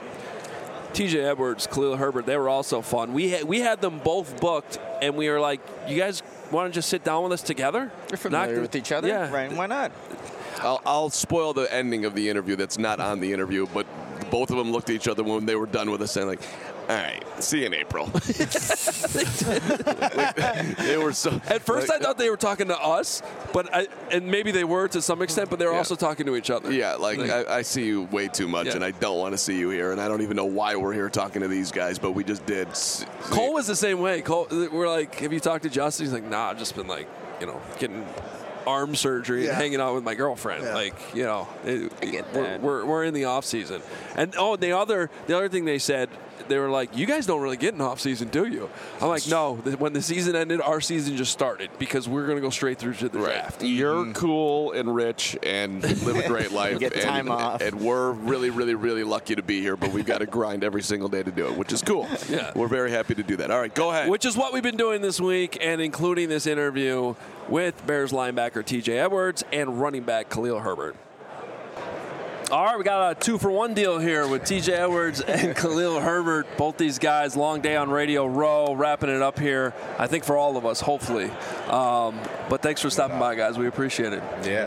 T J Edwards, Khalil Herbert, they were also fun. We had, we had them both booked, and we were like, you guys want to just sit down with us together? You're familiar Not- with each other, Yeah. right? Why not? I'll, I'll spoil the ending of the interview that's not on the interview, but both of them looked at each other when they were done with us and like, all right, see you in April. Like, they were so. At first, like, I thought they were talking to us, but I, and maybe they were to some extent, but they were Yeah. also talking to each other. Yeah, like I, I see you way too much, Yeah. and I don't want to see you here, and I don't even know why we're here talking to these guys, but we just did. S- Cole was the same way. Cole, we're like, have you talked to Justin? He's like, nah, I've just been like, you know, getting arm surgery Yeah. and hanging out with my girlfriend. Yeah. Like, you know, it, get we're, that. we're we're in the off season. And oh, the other the other thing they said, they were like, you guys don't really get an off season, do you? I'm like, no. The- When the season ended, our season just started because we're gonna go straight through to the draft. You're cool and rich and live a great life. Get and, time off. And we're really, really, really lucky to be here, but we've got to grind every single day to do it, which is cool. Yeah. We're very happy to do that. All right, go ahead. Which is what we've been doing this week, and including this interview with Bears linebacker T J Edwards and running back Khalil Herbert. All right, we got a two-for-one deal here with T J Edwards and Khalil Herbert. Both these guys, long day on Radio Row, wrapping it up here, I think for all of us, hopefully. Um, but thanks for stopping by, guys. We appreciate it. Yeah.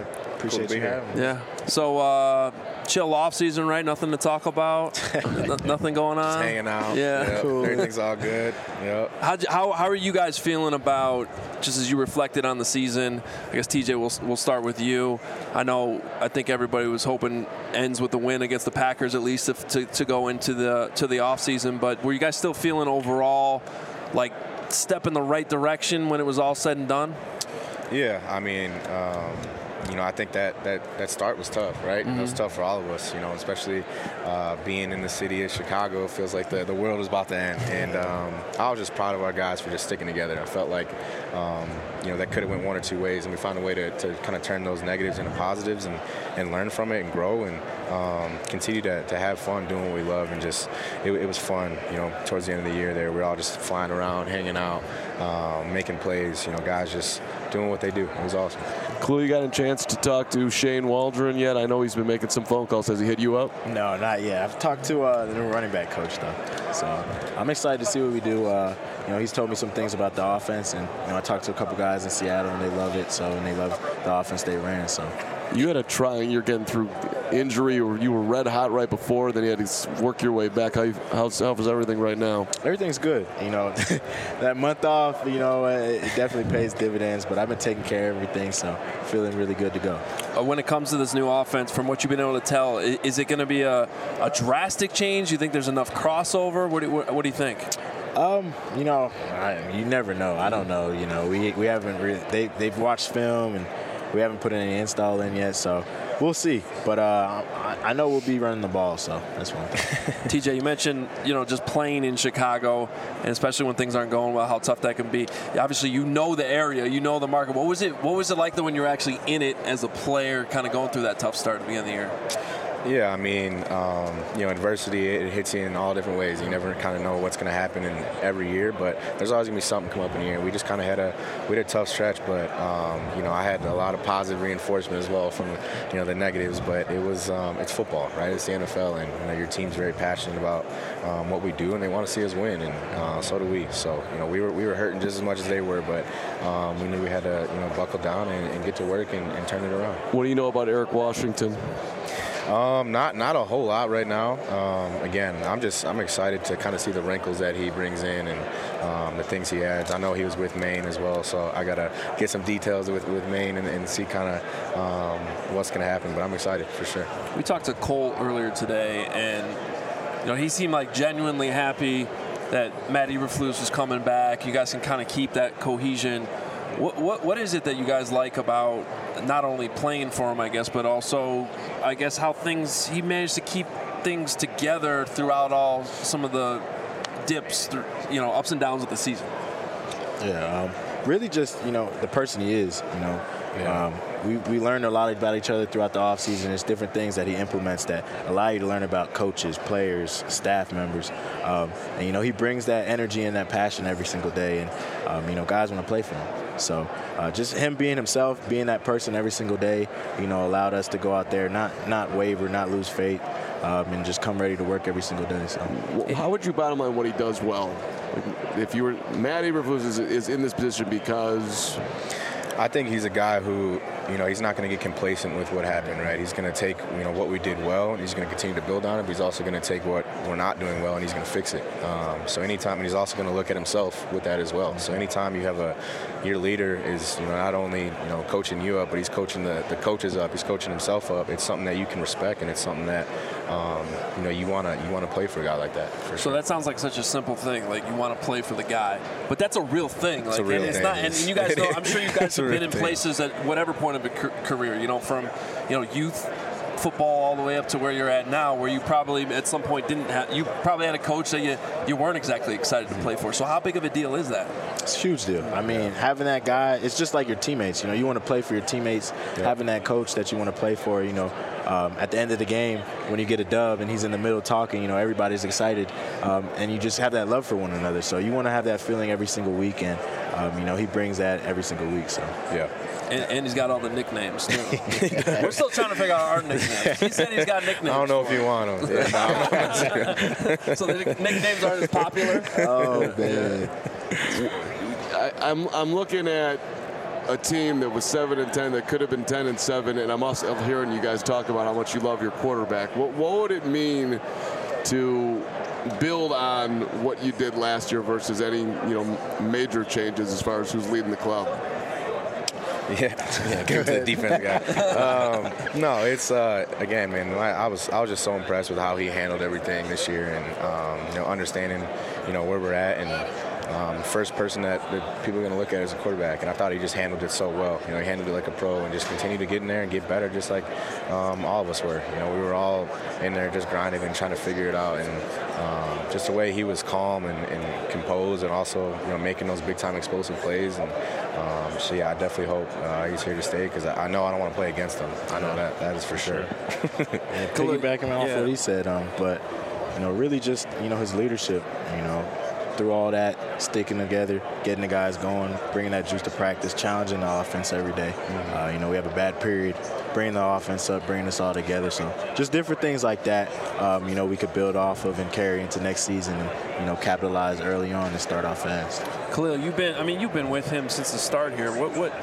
Appreciate cool you having me. Yeah. So, uh, chill off season, right? Nothing to talk about. N- nothing going on. Just hanging out. Yeah. Yep. Cool. Everything's all good. Yep. How, how how are you guys feeling about, just as you reflected on the season? I guess T J, we'll we'll start with you. I know I think everybody was hoping ends with the win against the Packers at least to to, to go into the to the off season. But were you guys still feeling overall like step in the right direction when it was all said and done? Yeah, I mean, um, you know, I think that, that, that start was tough, right? Mm-hmm. It was tough for all of us, you know, especially uh, being in the city of Chicago. It feels like the, the world is about to end. And um, I was just proud of our guys for just sticking together. I felt like, um, you know, that could have went one or two ways, and we found a way to, to kind of turn those negatives into positives and, and learn from it and grow and um, continue to, to have fun doing what we love. And just, it, it was fun, you know, towards the end of the year there. We were all just flying around, hanging out, um, making plays, you know, guys just doing what they do. It was awesome. Clue, you got a chance to talk to Shane Waldron yet? I know he's been making some phone calls. Has he hit you up? No, not yet. I've talked to uh, the new running back coach, though. So I'm excited to see what we do. Uh, you know, he's told me some things about the offense, and you know, I talked to a couple guys in Seattle, and they love it. So, and they love the offense they ran. So you had a try, and you're getting through injury, or you were red hot right before, then you had to work your way back. How you, how's, how's everything right now? Everything's good. You know, that month off, you know, it definitely pays dividends. But I've been taking care of everything, so feeling really good to go. Uh, when it comes to this new offense, from what you've been able to tell, is, is it going to be a, a drastic change? Do you think there's enough crossover? What do, what, what do you think? Um, you know, I, you never know. I don't know. You know, we we haven't really. They they've watched film and we haven't put any install in yet, so we'll see. But uh, I, I know we'll be running the ball, so that's one thing. T J, you mentioned, you know, just playing in Chicago, and especially when things aren't going well, how tough that can be. Obviously, you know the area, you know the market. What was it? What was it like though when you were actually in it as a player, kind of going through that tough start at the beginning of the year? Yeah, I mean, um, you know, adversity, it hits you in all different ways. You never kind of know what's going to happen in every year, but there's always going to be something come up in the year. We just kind of had a we had a tough stretch, but, um, you know, I had a lot of positive reinforcement as well from, you know, the negatives, but it was, um, it's football, right? It's the N F L, and, you know, your team's very passionate about um, what we do, and they want to see us win, and uh, so do we. So, you know, we were we were hurting just as much as they were, but um, we knew we had to, you know, buckle down and, and get to work and, and turn it around. What do you know about Eric Washington? Um, not not a whole lot right now. Um, again, I'm just I'm excited to kind of see the wrinkles that he brings in and um, the things he adds. I know he was with Maine as well, so I gotta get some details with, with Maine and, and see kind of um, what's gonna happen. But I'm excited for sure. We talked to Cole earlier today, and you know he seemed like genuinely happy that Matt Eberflus was coming back. You guys can kind of keep that cohesion. What, what what is it that you guys like about not only playing for him, I guess, but also, I guess, how things he managed to keep things together throughout all some of the dips, you know, ups and downs of the season? Yeah, um, really just, you know, the person he is, you know. Yeah. Um, we, we learned a lot about each other throughout the offseason. There's different things that he implements that allow you to learn about coaches, players, staff members. Um, and, you know, he brings that energy and that passion every single day. And, um, you know, guys want to play for him. So uh, just him being himself, being that person every single day, you know, allowed us to go out there, not not waver, not lose faith, um, and just come ready to work every single day. So, how would you bottom line what he does well? Like, if you were Matt Eberflus is, is in this position because I think he's a guy who, you know, he's not going to get complacent with what happened, right? He's going to take, you know, what we did well, and he's going to continue to build on it, but he's also going to take what we're not doing well, and he's going to fix it. Um, so anytime, and he's also going to look at himself with that as well. So anytime you have a, your leader is, you know, not only, you know, coaching you up, but he's coaching the, the coaches up, he's coaching himself up. It's something that you can respect, and it's something that, um, you know, you want to you want to play for a guy like that, for So sure. that sounds like such a simple thing, like you want to play for the guy, but that's a real thing. Like, a real and it's thing. not, and you guys know, I'm sure you guys It's a have been real in thing. places at whatever point of a ca- career, you know, from, you know, youth football all the way up to where you're at now, where you probably at some point didn't have, you probably had a coach that you, you weren't exactly excited to play for. So how big of a deal is that? it's a huge deal. I mean, having that guy, it's just like your teammates. You know, you want to play for your teammates. Yeah. Having that coach that you want to play for, you know, um, at the end of the game, when you get a dub and he's in the middle talking, you know, everybody's excited. Um, and you just have that love for one another. So you want to have that feeling every single week. And, um, you know, he brings that every single week. So, yeah. And, and he's got all the nicknames, too. We're still trying to figure out our nicknames. He said he's got nicknames. I don't know if you want them. Yeah, no, I'm not sure. So the nicknames aren't as popular? oh, man. I, I'm I'm looking at a team that was seven and ten that could have been ten and seven, and I'm also hearing you guys talk about how much you love your quarterback. What, what would it mean to build on what you did last year versus any, you know, major changes as far as who's leading the club? Yeah, yeah, give it to the defense guy. Um, no, it's uh, again, man. I, I was I was just so impressed with how he handled everything this year, and um, you know, understanding, you know, where we're at, and um, first person that, that people are going to look at as a quarterback. And I thought he just handled it so well. You know, he handled it like a pro, and just continued to get in there and get better, just like um, all of us were. You know, we were all in there just grinding and trying to figure it out, and um, just the way he was calm and, and composed, and also, you know, making those big time explosive plays. And Um, so yeah, I definitely hope uh, he's here to stay, because I, I know I don't want to play against him. I know that that is for sure. Yeah, piggybacking off yeah. what he said, um, but you know, really just you know his leadership. You know, through all that, sticking together, getting the guys going, bringing that juice to practice, challenging the offense every day. Mm-hmm. Uh, you know, we have a bad period, bringing the offense up, bringing us all together. So just different things like that, um, you know, we could build off of and carry into next season, and you know, capitalize early on and start off fast. Khalil, you've been, I mean, you've been with him since the start here. What, what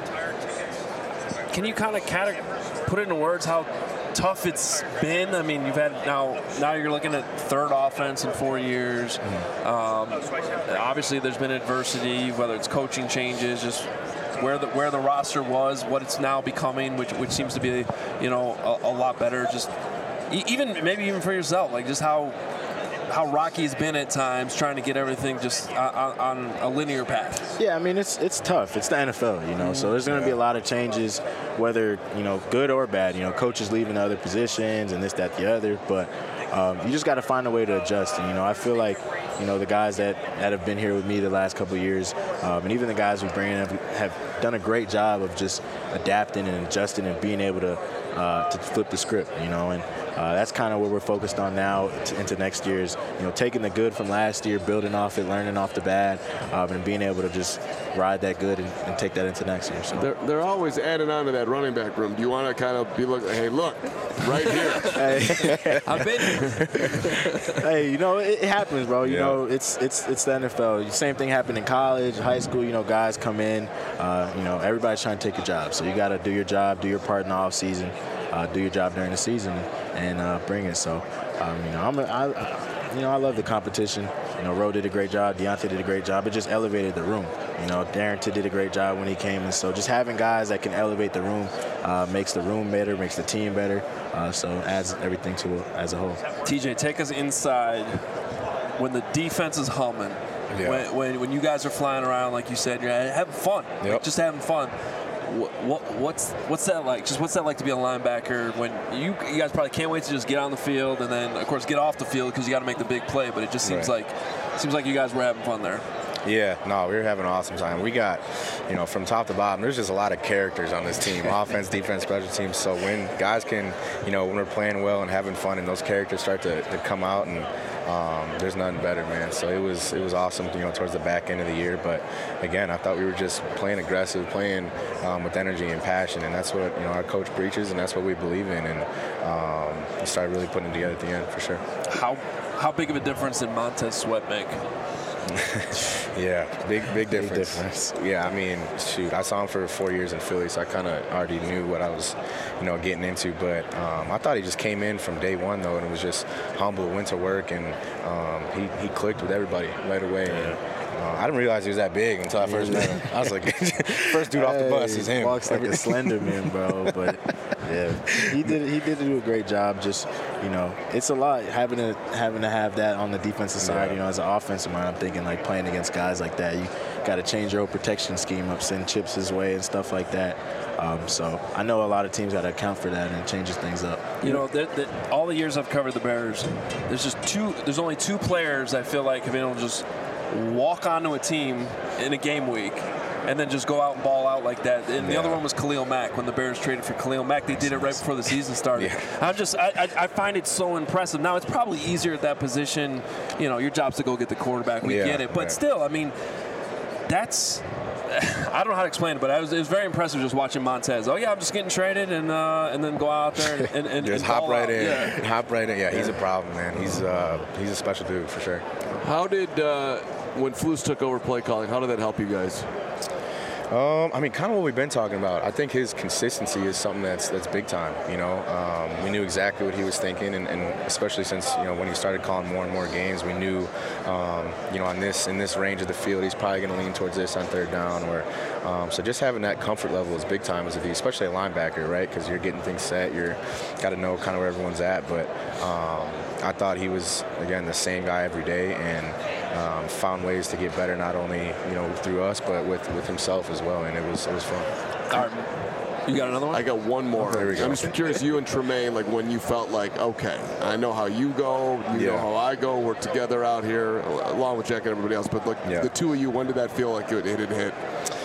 can you kind of put into words how tough it's been? I mean, you've had now, now you're looking at third offense in four years. Mm-hmm. Um, obviously, there's been adversity, whether it's coaching changes, just where the where the roster was, what it's now becoming, which which seems to be, you know, a, a lot better. Just even maybe even for yourself, like just how. how rocky it's been at times, trying to get everything just on, on a linear path. Yeah, I mean, it's it's tough. It's the N F L, you know, so there's going to be a lot of changes, whether, you know, good or bad. You know, coaches leaving other positions and this, that, the other. But um, you just got to find a way to adjust. And, you know, I feel like, you know, the guys that, that have been here with me the last couple of years, um, and even the guys we bring in have, have done a great job of just adapting and adjusting and being able to uh, to flip the script, you know, and Uh, that's kind of what we're focused on now t- into next year's, you know, taking the good from last year, building off it, learning off the bad, um, and being able to just ride that good and, and take that into next year. So they're, they're always adding on to that running back room. Do you want to kind of be like, hey, look, right here. Hey. I've been here. Hey, you know, it, it happens, bro. You Yeah. know, it's it's it's the N F L. Same thing happened in college, high school. You know, guys come in. Uh, you know, everybody's trying to take a job. So you got to do your job, do your part in the off season, uh, do your job during the season, and uh, bring it. So, um, you know, I'm a, I, you know, I love the competition. You know, Roe did a great job. Deontay did a great job. It just elevated the room. You know, Darrington did a great job when he came. And so just having guys that can elevate the room uh, makes the room better, makes the team better. Uh, so adds everything to it as a whole. T J, take us inside when the defense is humming. Yeah. When, when when you guys are flying around, like you said, you're having fun. Yep. Like, just having fun. What, what what's what's that like? Just what's that like to be a linebacker when you you guys probably can't wait to just get on the field and then of course get off the field because you got to make the big play. But it just seems Right. like seems like you guys were having fun there. Yeah, no, we were having an awesome time. We got, you know, from top to bottom, there's just a lot of characters on this team, offense, defense, special teams. So when guys can, you know, when we're playing well and having fun and those characters start to, to come out, and um, there's nothing better, man. So it was it was awesome, you know, towards the back end of the year. But again, I thought we were just playing aggressive, playing um, with energy and passion, and that's what, you know, our coach preaches, and that's what we believe in. And um, we started really putting it together at the end, for sure. How how big of a difference did Montez Sweat make? Yeah, big big difference. difference. Yeah, I mean, shoot, I saw him for four years in Philly, so I kind of already knew what I was, you know, getting into. But um, I thought he just came in from day one, though, and was just humble, went to work, and um, he, he clicked with everybody right away. And, uh, I didn't realize he was that big until I first met him. I was like, first dude off the bus is him. He walks like a slender man, bro. But yeah, he did he did do a great job. Just, you know, it's a lot having to having to have that on the defensive side. Yeah. You know, as an offensive mind, I'm thinking like playing against guys like that, you got to change your whole protection scheme up, send chips his way and stuff like that. Um, so I know a lot of teams got to account for that, and it changes things up. You know, that, that all the years I've covered the Bears, there's just two. There's only two players I feel like have been able to just walk onto a team in a game week and then just go out and ball out like that. And the Yeah. other one was Khalil Mack. When the Bears traded for Khalil Mack, they did it right before the season started. Yeah. I'm just, I, I, I find it so impressive. Now it's probably easier at that position. You know, your job's to go get the quarterback. We Yeah, get it, but yeah. still, I mean, that's. I don't know how to explain it, but I was, it was very impressive just watching Montez. Oh yeah, I'm just getting traded, and uh, and then go out there and, and, and Just and hop ball right out. in, Yeah. hop right in. Yeah, he's a problem, man. He's uh, he's a special dude for sure. How did, uh, when Flus took over play calling, how did that help you guys? Um, I mean, kind of what we've been talking about. I think his consistency is something that's that's big time. You know, um, we knew exactly what he was thinking, and, and especially since you know when he started calling more and more games, we knew, um, you know, on this in this range of the field, he's probably going to lean towards this on third down. Or um, so just having that comfort level is big time as a D, especially a linebacker, right? Because you're getting things set, you're got to know kind of where everyone's at. But um, I thought he was again the same guy every day, and um, found ways to get better, not only you know through us, but with with himself as well, and it was it was fun. All right. You got another one? I got one more. There we go. I'm just curious, you and Tremaine, like when you felt like, okay, I know how you go, you Yeah. know how I go, we're together out here, along with Jack and everybody else, but like Yeah. the two of you, when did that feel like it, it had hit?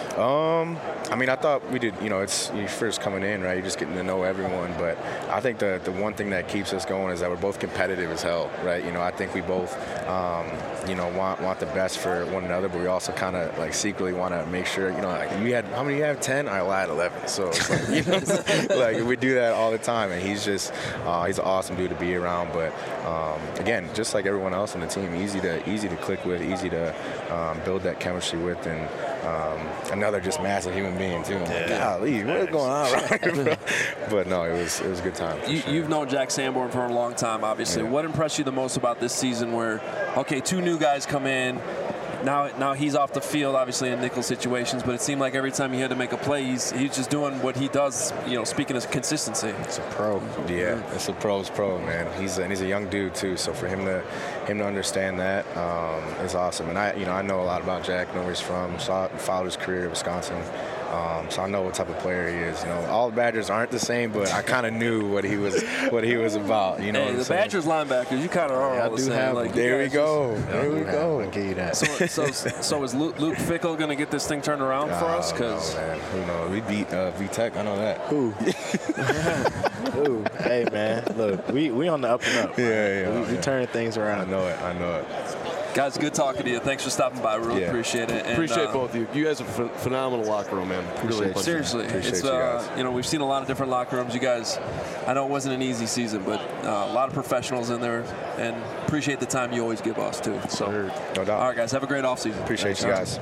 Um, I mean, I thought we did, you know, it's you first coming in, right? You're just getting to know everyone. But I think the the one thing that keeps us going is that we're both competitive as hell, right? You know, I think we both, um, you know, want want the best for one another, but we also kind of like secretly want to make sure, you know, like you had, how many you have? ten? All right, well, I had eleven. So, it's like, you know, like we do that all the time. And he's just, uh, he's an awesome dude to be around. But um, again, just like everyone else on the team, easy to easy to click with, easy to um, build that chemistry with, and um, another just massive human being too. I'm like, golly, what is going on right here? But no, it was it was a good time. You, Sure. You've known Jack Sanborn for a long time, obviously. Yeah. What impressed you the most about this season where, okay, two new guys come in, now now he's off the field, obviously, in nickel situations, but it seemed like every time he had to make a play, he's, he's just doing what he does, you know, speaking of consistency. It's a pro. Yeah, it's a pro's pro, man. He's and he's a young dude too, so for him to him to understand that um, is awesome. And I, you know, I know a lot about Jack, know where he's from, saw followed his career at Wisconsin. Um, so I know what type of player he is. You know, all the Badgers aren't the same, but I kind of knew what he was what he was about. You know, Hey, what I'm the saying? Badgers linebackers, you kind of are Yeah, all I the do same. have Like, them. you There we guys go. just- There we go. I'll give you that. So, so, so is Luke, Luke Fickle going to get this thing turned around for us? Oh, no, Because man, who knows? We beat uh, V-Tech. I know that. Who? Ooh, hey man, look, we we on the up and up. Yeah, yeah. We, we yeah. turning things I around. know it. I know it. guys, good talking to you. Thanks for stopping by. Really Yeah. appreciate it. And, Appreciate uh, both of you. You guys are ph- phenomenal locker room, man. Really Appreciate you. Seriously, Appreciate it's you uh, guys. you know we've seen a lot of different locker rooms. You guys, I know it wasn't an easy season, but uh, a lot of professionals in there, and appreciate the time you always give us too. So, No doubt. all right, guys, have a great offseason. Appreciate you guys.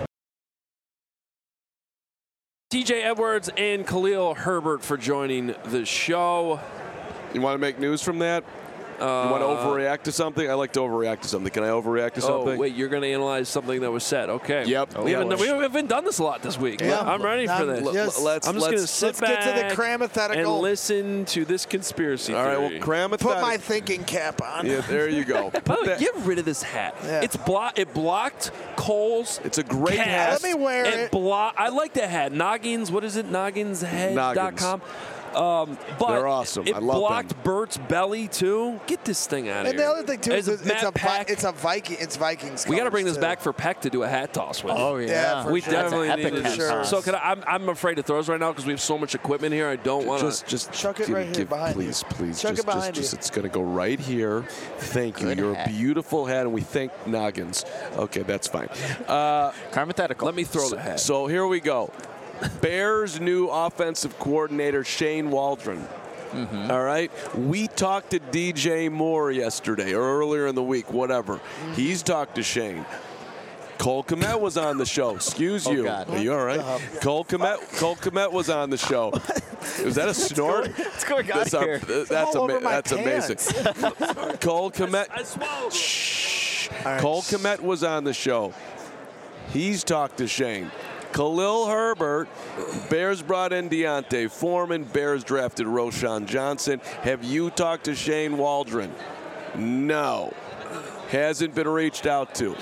T J Edwards and Khalil Herbert for joining the show. You want to make news from that? Uh, You want to overreact to something? I like to overreact to something. Can I overreact to something? Oh, wait, you're going to analyze something that was said. Okay. Yep. We, Yeah. haven't, we haven't done this a lot this week. Yeah. I'm ready for Um, this. yes. Let's, I'm just going to let's, sit let's back get to the crammathetical. and listen to this conspiracy all right, well, theory. cram it. Put my thinking cap on. Yeah, there you go. Put By the way, that- get rid of this hat. Yeah. It's blo- It blocked Cole's It's a great cast. hat. Let me wear it. Blo- I like that hat. Noggins, what is it? Nogginshead dot com. Um, but They're awesome. It I love blocked them. Bert's belly too. Get this thing out of And here. the other thing too is As it's, it's a Vi- Peck, it's a Viking it's Vikings. we got to colors, bring this too. back for Peck to do a hat toss with. Oh, yeah. Yeah, for we sure. definitely That's an need epic to hat do toss. So can I, I'm, I'm afraid to throw this right now because we have so much equipment here. I don't want to. Just, just Chuck it give- right here give- behind you. please, please, Chuck it just, behind just, you. just, it's going to go right here. Thank you. Good You're hat. a beautiful hat, and we thank Noggins. Okay, that's fine. Uh, Crammathetical. Let me throw the hat. so here we go. Bears' new offensive coordinator, Shane Waldron. Mm-hmm. All right. We talked to D J Moore yesterday or earlier in the week, whatever. He's talked to Shane. Cole Kmet was on the show. Excuse you. God. Are you all right? Cole Kmet, Cole Kmet was on the show. Was that a snort? What's going on That's, our- here? that's, all ama- over my that's amazing. Cole Kmet. I swallowed. Shh. right. Cole Kmet was on the show. He's talked to Shane. Khalil Herbert, Bears brought in Deontay Foreman, Bears drafted Roshan Johnson. Have you talked to Shane Waldron? No. Hasn't been reached out to.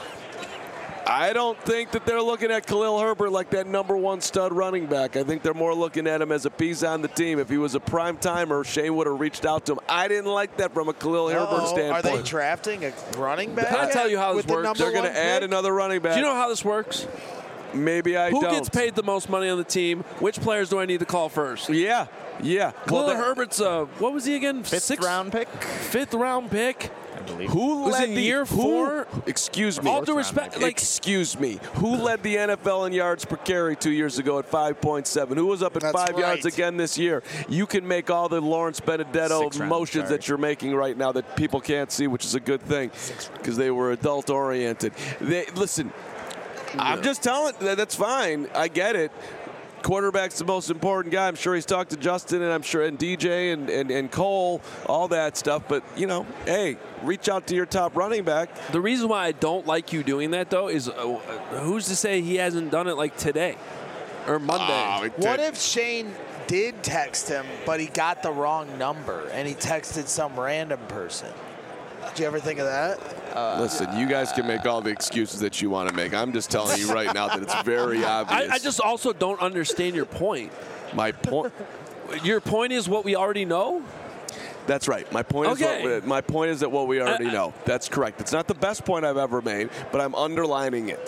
I don't think that they're looking at Khalil Herbert like that number one stud running back. I think they're more looking at him as a piece on the team. If he was a prime timer, Shane would have reached out to him. I didn't like that from a Khalil Herbert Uh-oh. standpoint. Are they drafting a running back? I'll tell you how this with the works. number They're going one to add pick? another running back. Do you know how this works? Maybe I Who don't. gets paid the most money on the team? Which players do I need to call first? Yeah, yeah. Khalil that- Herbert's, uh, what was he again? Fifth Sixth round pick, Fifth round pick. I believe. Who Was led it the year who- four? Excuse me. All due respect, like excuse me. Who led the N F L in yards per carry two years ago at five point seven? Who was up at That's five yards right. again this year? You can make all the Lawrence Benedetto Six round, motions sorry. that you're making right now that people can't see, which is a good thing because they were adult oriented. They listen. I'm just telling. that- That's fine. I get it. quarterback's the most important guy. I'm sure he's talked to Justin, and I'm sure and D J and, and, and Cole, all that stuff. But, you know, hey, reach out to your top running back. The reason why I don't like you doing that, though, is uh, who's to say he hasn't done it like today or Monday? Oh, What if Shane did text him, but he got the wrong number and he texted some random person? Did you ever think of that? Uh, Listen, you guys can make all the excuses that you want to make. I'm just telling you right now that it's very obvious. I, I just also don't understand your point. My point. Your point is what we already know? That's right. My point Okay. is what, my point is that what we already I- I- know. That's correct. It's not the best point I've ever made, but I'm underlining it.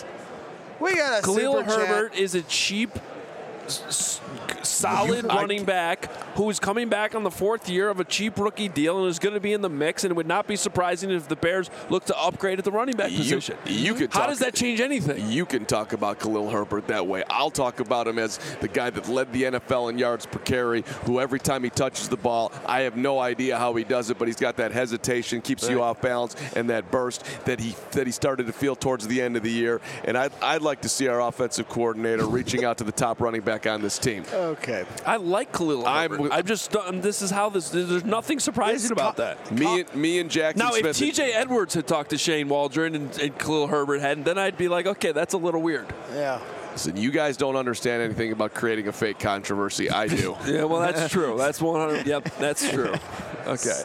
We got a Khalil super chat. Herbert is a cheap, s- s- solid You- I- running back who's coming back on the fourth year of a cheap rookie deal and is going to be in the mix. And it would not be surprising if the Bears look to upgrade at the running back You- position. you could How talk- does that change anything? You can talk about Khalil Herbert that way. I'll talk about him as the guy that led the N F L in yards per carry, who every time he touches the ball, I have no idea how he does it, but he's got that hesitation, keeps you Right. off balance, and that burst that he that he started to feel towards the end of the year. And I'd, I'd like to see our offensive coordinator reaching out to the top running back on this team. Okay. I like Khalil I'm- Herbert. I'm, just, um, this is how this, there's nothing surprising This about co- that. Me and me and Jackson Now, Smith. if T J Edwards had talked to Shane Waldron and, and Khalil Herbert hadn't, then I'd be like, okay, that's a little weird. Yeah. Listen, you guys don't understand anything about creating a fake controversy. I do. Yeah, well, that's true. That's one hundred. Yep, that's true. Okay.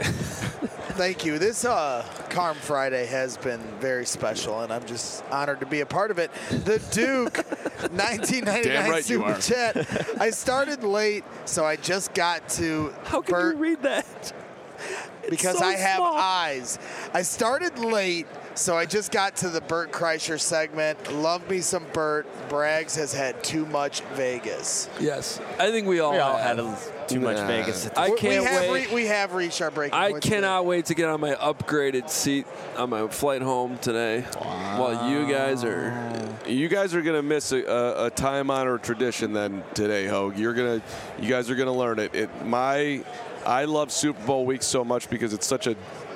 Thank you. This uh, Carm Friday has been very special, and I'm just honored to be a part of it. The Duke, nineteen ninety-nine Damn right you Super are. Chat. I started late, so I just got to How can Bert you read that? because so I have small. eyes. I started late, so I just got to the Bert Kreischer segment. Love me some Bert. Braggs has had too much Vegas. Yes, I think we all, We all have. had a, too much Nah. Vegas. At I this We- can't we have wait. Re- we have reached our breaking I point cannot wait to get on my upgraded seat on my flight home today. While you guys are. You guys are gonna miss a, a, a time-honored tradition then today, Hogue. You're gonna, you guys are gonna learn it. It my, I love Super Bowl week so much because it's such a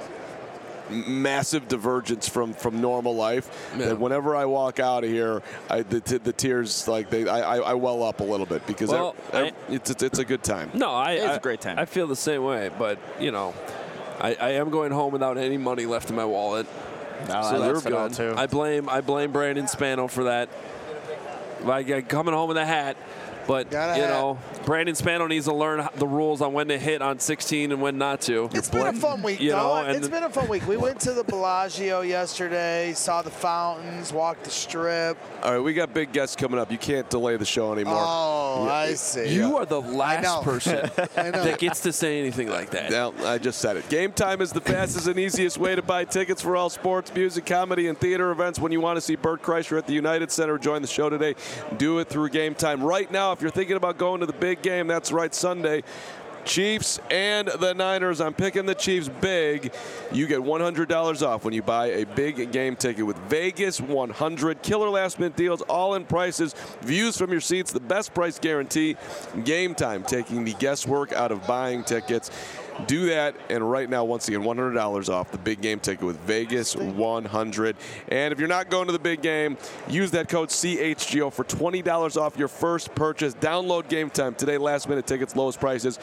massive divergence from, from normal life Yeah. that whenever I walk out of here, I, the, t- the tears like they I, I, I well up a little bit because Well, I- I- I- it's, it's it's a good time. No, I. It's I- a great time. I feel the same way, but you know, I, I am going home without any money left in my wallet. No, so that's that's it all, good. too. I blame I blame Brandon Spano for that. Like coming home with a hat, but Got a you hat. know, Brandon Spano needs to learn the rules on when to hit on sixteen and when not to. It's been a fun week, You though. know, and It's been a fun week. We went to the Bellagio yesterday, saw the fountains, walked the strip. All right, we got big guests coming up. You can't delay the show anymore. Oh, I see. You are the know. last person I know. that gets to say anything like that. Now, I just said it. Game Time is the fastest and easiest way to buy tickets for all sports, music, comedy, and theater events. When you want to see Bert Kreischer at the United Center, join the show today. Do it through Game Time. Right now, if you're thinking about going to the big game, that's right, Sunday. Chiefs and the Niners. I'm picking the Chiefs big. You get one hundred dollars off when you buy a big game ticket with Vegas one hundred. Killer last minute deals, all in prices, views from your seats, the best price guarantee. Game Time, taking the guesswork out of buying tickets. Do that, and right now, once again, one hundred dollars off the big game ticket with Vegas one hundred. And if you're not going to the big game, use that code C H G O for twenty dollars off your first purchase. Download Game Time today. Last minute tickets, lowest prices,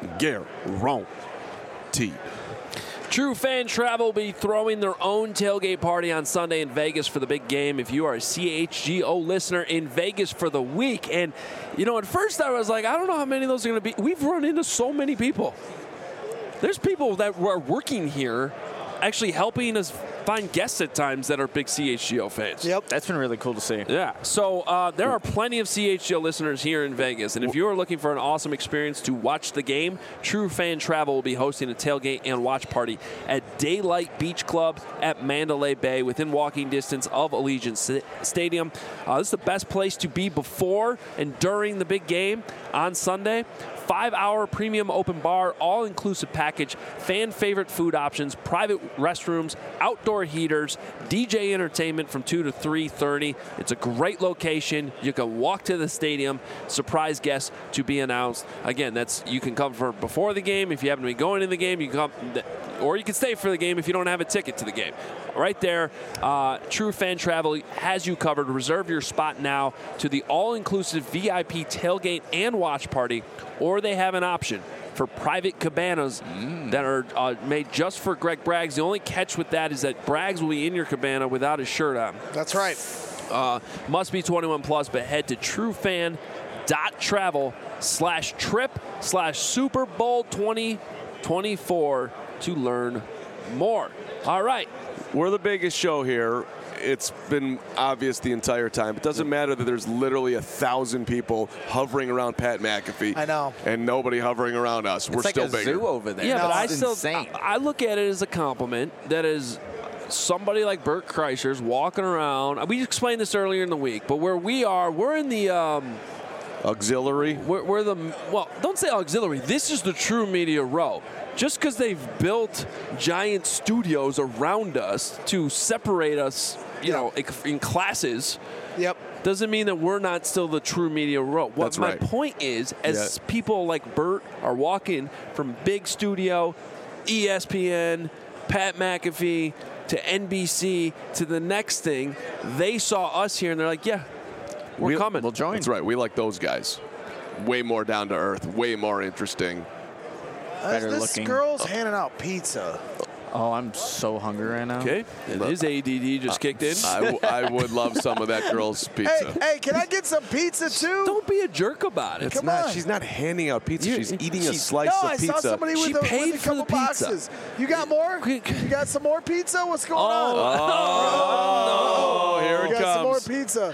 guaranteed. True Fan Travel will be throwing their own tailgate party on Sunday in Vegas for the big game. If you are a C H G O listener in Vegas for the week, and you know, at first I was like, I don't know how many of those are going to be. We've run into so many people. There's people that are working here actually helping us find guests at times that are big C H G O fans. Yep. That's been really cool to see. Yeah. So uh, there are plenty of C H G O listeners here in Vegas. And if you are looking for an awesome experience to watch the game, True Fan Travel will be hosting a tailgate and watch party at Daylight Beach Club at Mandalay Bay within walking distance of Allegiant St- Stadium. Uh, this is the best place to be before and during the big game on Sunday. Five-hour premium open bar, all-inclusive package, fan-favorite food options, private restrooms, outdoor heaters, D J entertainment from two to three thirty. It's a great location. You can walk to the stadium. Surprise guests to be announced. Again, that's you can come for before the game. If you happen to be going in the game, you can come. or you can stay for the game if you don't have a ticket to the game. Right there, uh, True Fan Travel has you covered. Reserve your spot now to the all-inclusive V I P tailgate and watch party, or they have an option for private cabanas mm. that are uh, made just for Greg Braggs. The only catch with that is that Braggs will be in your cabana without his shirt on. That's right. Uh, must be twenty-one plus, but head to truefan.travel slash trip slash Super Bowl twenty twenty-four to learn more. All right. We're the biggest show here. It's been obvious the entire time. It doesn't matter that there's literally a thousand people hovering around Pat McAfee. I know. And nobody hovering around us. It's We're like still a bigger. zoo over there. Yeah, no, but I it's still insane. I, I look at it as a compliment. That is somebody like Bert Kreischer's walking around. We explained this earlier in the week, but where we are, we're in the um, auxiliary. We're, we're the well, don't say auxiliary. This is the True Media Row. Just because they've built giant studios around us to separate us, you know, in classes. Yep. Doesn't mean that we're not still the True Media Row. What That's my right. point is, as Yeah. people like Bert are walking from big studio, E S P N, Pat McAfee, to N B C, to the next thing, they saw us here and they're like, yeah, we're We- coming. We'll join. That's right. We like those guys. Way more down to earth. Way more interesting. Better this looking. girl's handing out pizza. Oh, I'm so hungry right now. Okay. And his A D D just kicked in. I, w- I would love some of that girl's pizza. Hey, hey, can I get some pizza too? Don't be a jerk about it. It's come not. on. She's not handing out pizza. You- she's eating a she's- slice no, of I pizza. saw somebody with, She a, paid with a for the couple pizza. boxes. You got more? Quick. You got some more pizza? What's going Oh, on? Oh, Oh, here you it got some more comes. pizza.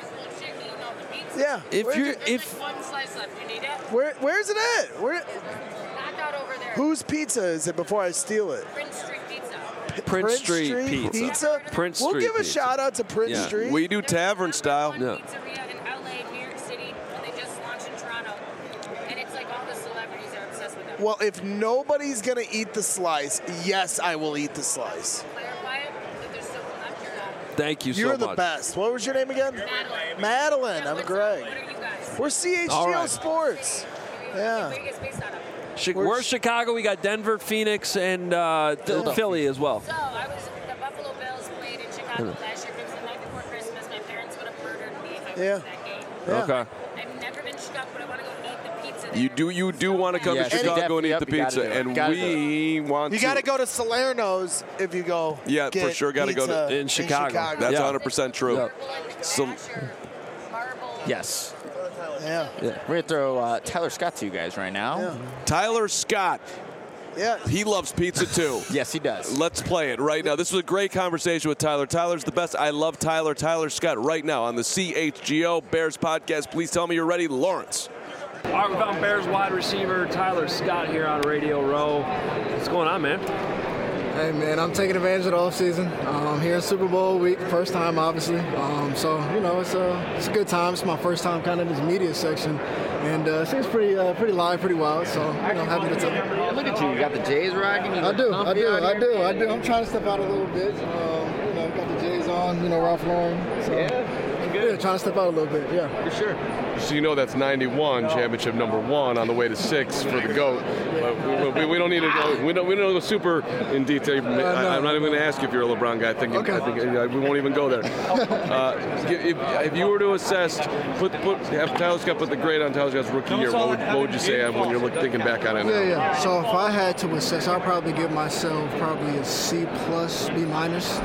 Yeah. If Where'd you're you- if One slice left. You need it? where, where's it at? Where? Knocked out over there. Whose pizza is it before I steal it? Prince Street Pizza. Prince, Street, Pizza. Prince We'll Street give a Pizza. shout out to Prince Yeah. Street. We do tavern style. One Yeah. pizzeria in L A, New York City, and they just launched in Toronto. And it's like all the celebrities are obsessed with them. Well, if nobody's gonna eat the slice, yes, I will eat the slice. Clarify it, that there's still left or not. Thank you You're so the much. best. What was your name again? Madeline. Madeline. Yeah, I'm what's Greg. up? What are you guys? We're C H G O All right. Sports. Yeah. Where are you guys based out of? Chi- We're- We're Chicago. We got Denver, Phoenix, and uh, Philadelphia. Philly as well. So I was the Buffalo Bills played in Chicago last year. It was the night before Christmas. My parents would have murdered me if I Yeah. went to that game. Yeah. Okay. I've never been to Chicago, but I want to go eat the pizza there. You do. You do want to come Yes, to you Chicago and eat definitely- the yep, you gotta pizza, do it. and Gotta we want. You to. got to go to Salerno's if you go. Yeah, for get sure gotta go to- pizza in Chicago. That's Yeah. one hundred percent true. Yeah. Marble and So- Asher, marble. Yes. Yeah. We're going to throw uh, Tyler Scott to you guys right now. Yeah. Tyler Scott. Yeah. He loves pizza too. Yes, he does. Let's play it right now. This was a great conversation with Tyler. Tyler's the best. I love Tyler. Tyler Scott right now on the C H G O Bears podcast. Please tell me you're ready, Lawrence. All right, we found Bears wide receiver Tyler Scott here on Radio Row. What's going on, man? Hey man, I'm taking advantage of the offseason. Um, here in Super Bowl week, first time obviously. Um, so you know, it's a it's a good time. It's my first time kind of in this media section, and uh, it seems pretty uh, pretty live, pretty wild. So you know, having a good time. Look at you. You got the Jays rocking. You I look do, I comfy do, out I here. do, I do. I'm trying to step out a little bit. Um, you know, got the J's on. You know, Ralph Lauren. So, Yeah, yeah, trying to step out a little bit. Yeah. for sure. So you know that's ninety-one, championship number one, on the way to six for the GOAT. But we, we, we don't need to go. We don't. We don't go super in detail. I, I'm not even going to ask you if you're a LeBron guy. I think. Okay. I think uh, we won't even go there. Uh, if, if you were to assess, put put have Tyler Scott put the grade on Tyler Scott's rookie year, what would, what would you say on when you're look, thinking back on it? Yeah, yeah. So if I had to assess, I'd probably give myself probably a C plus, B minus.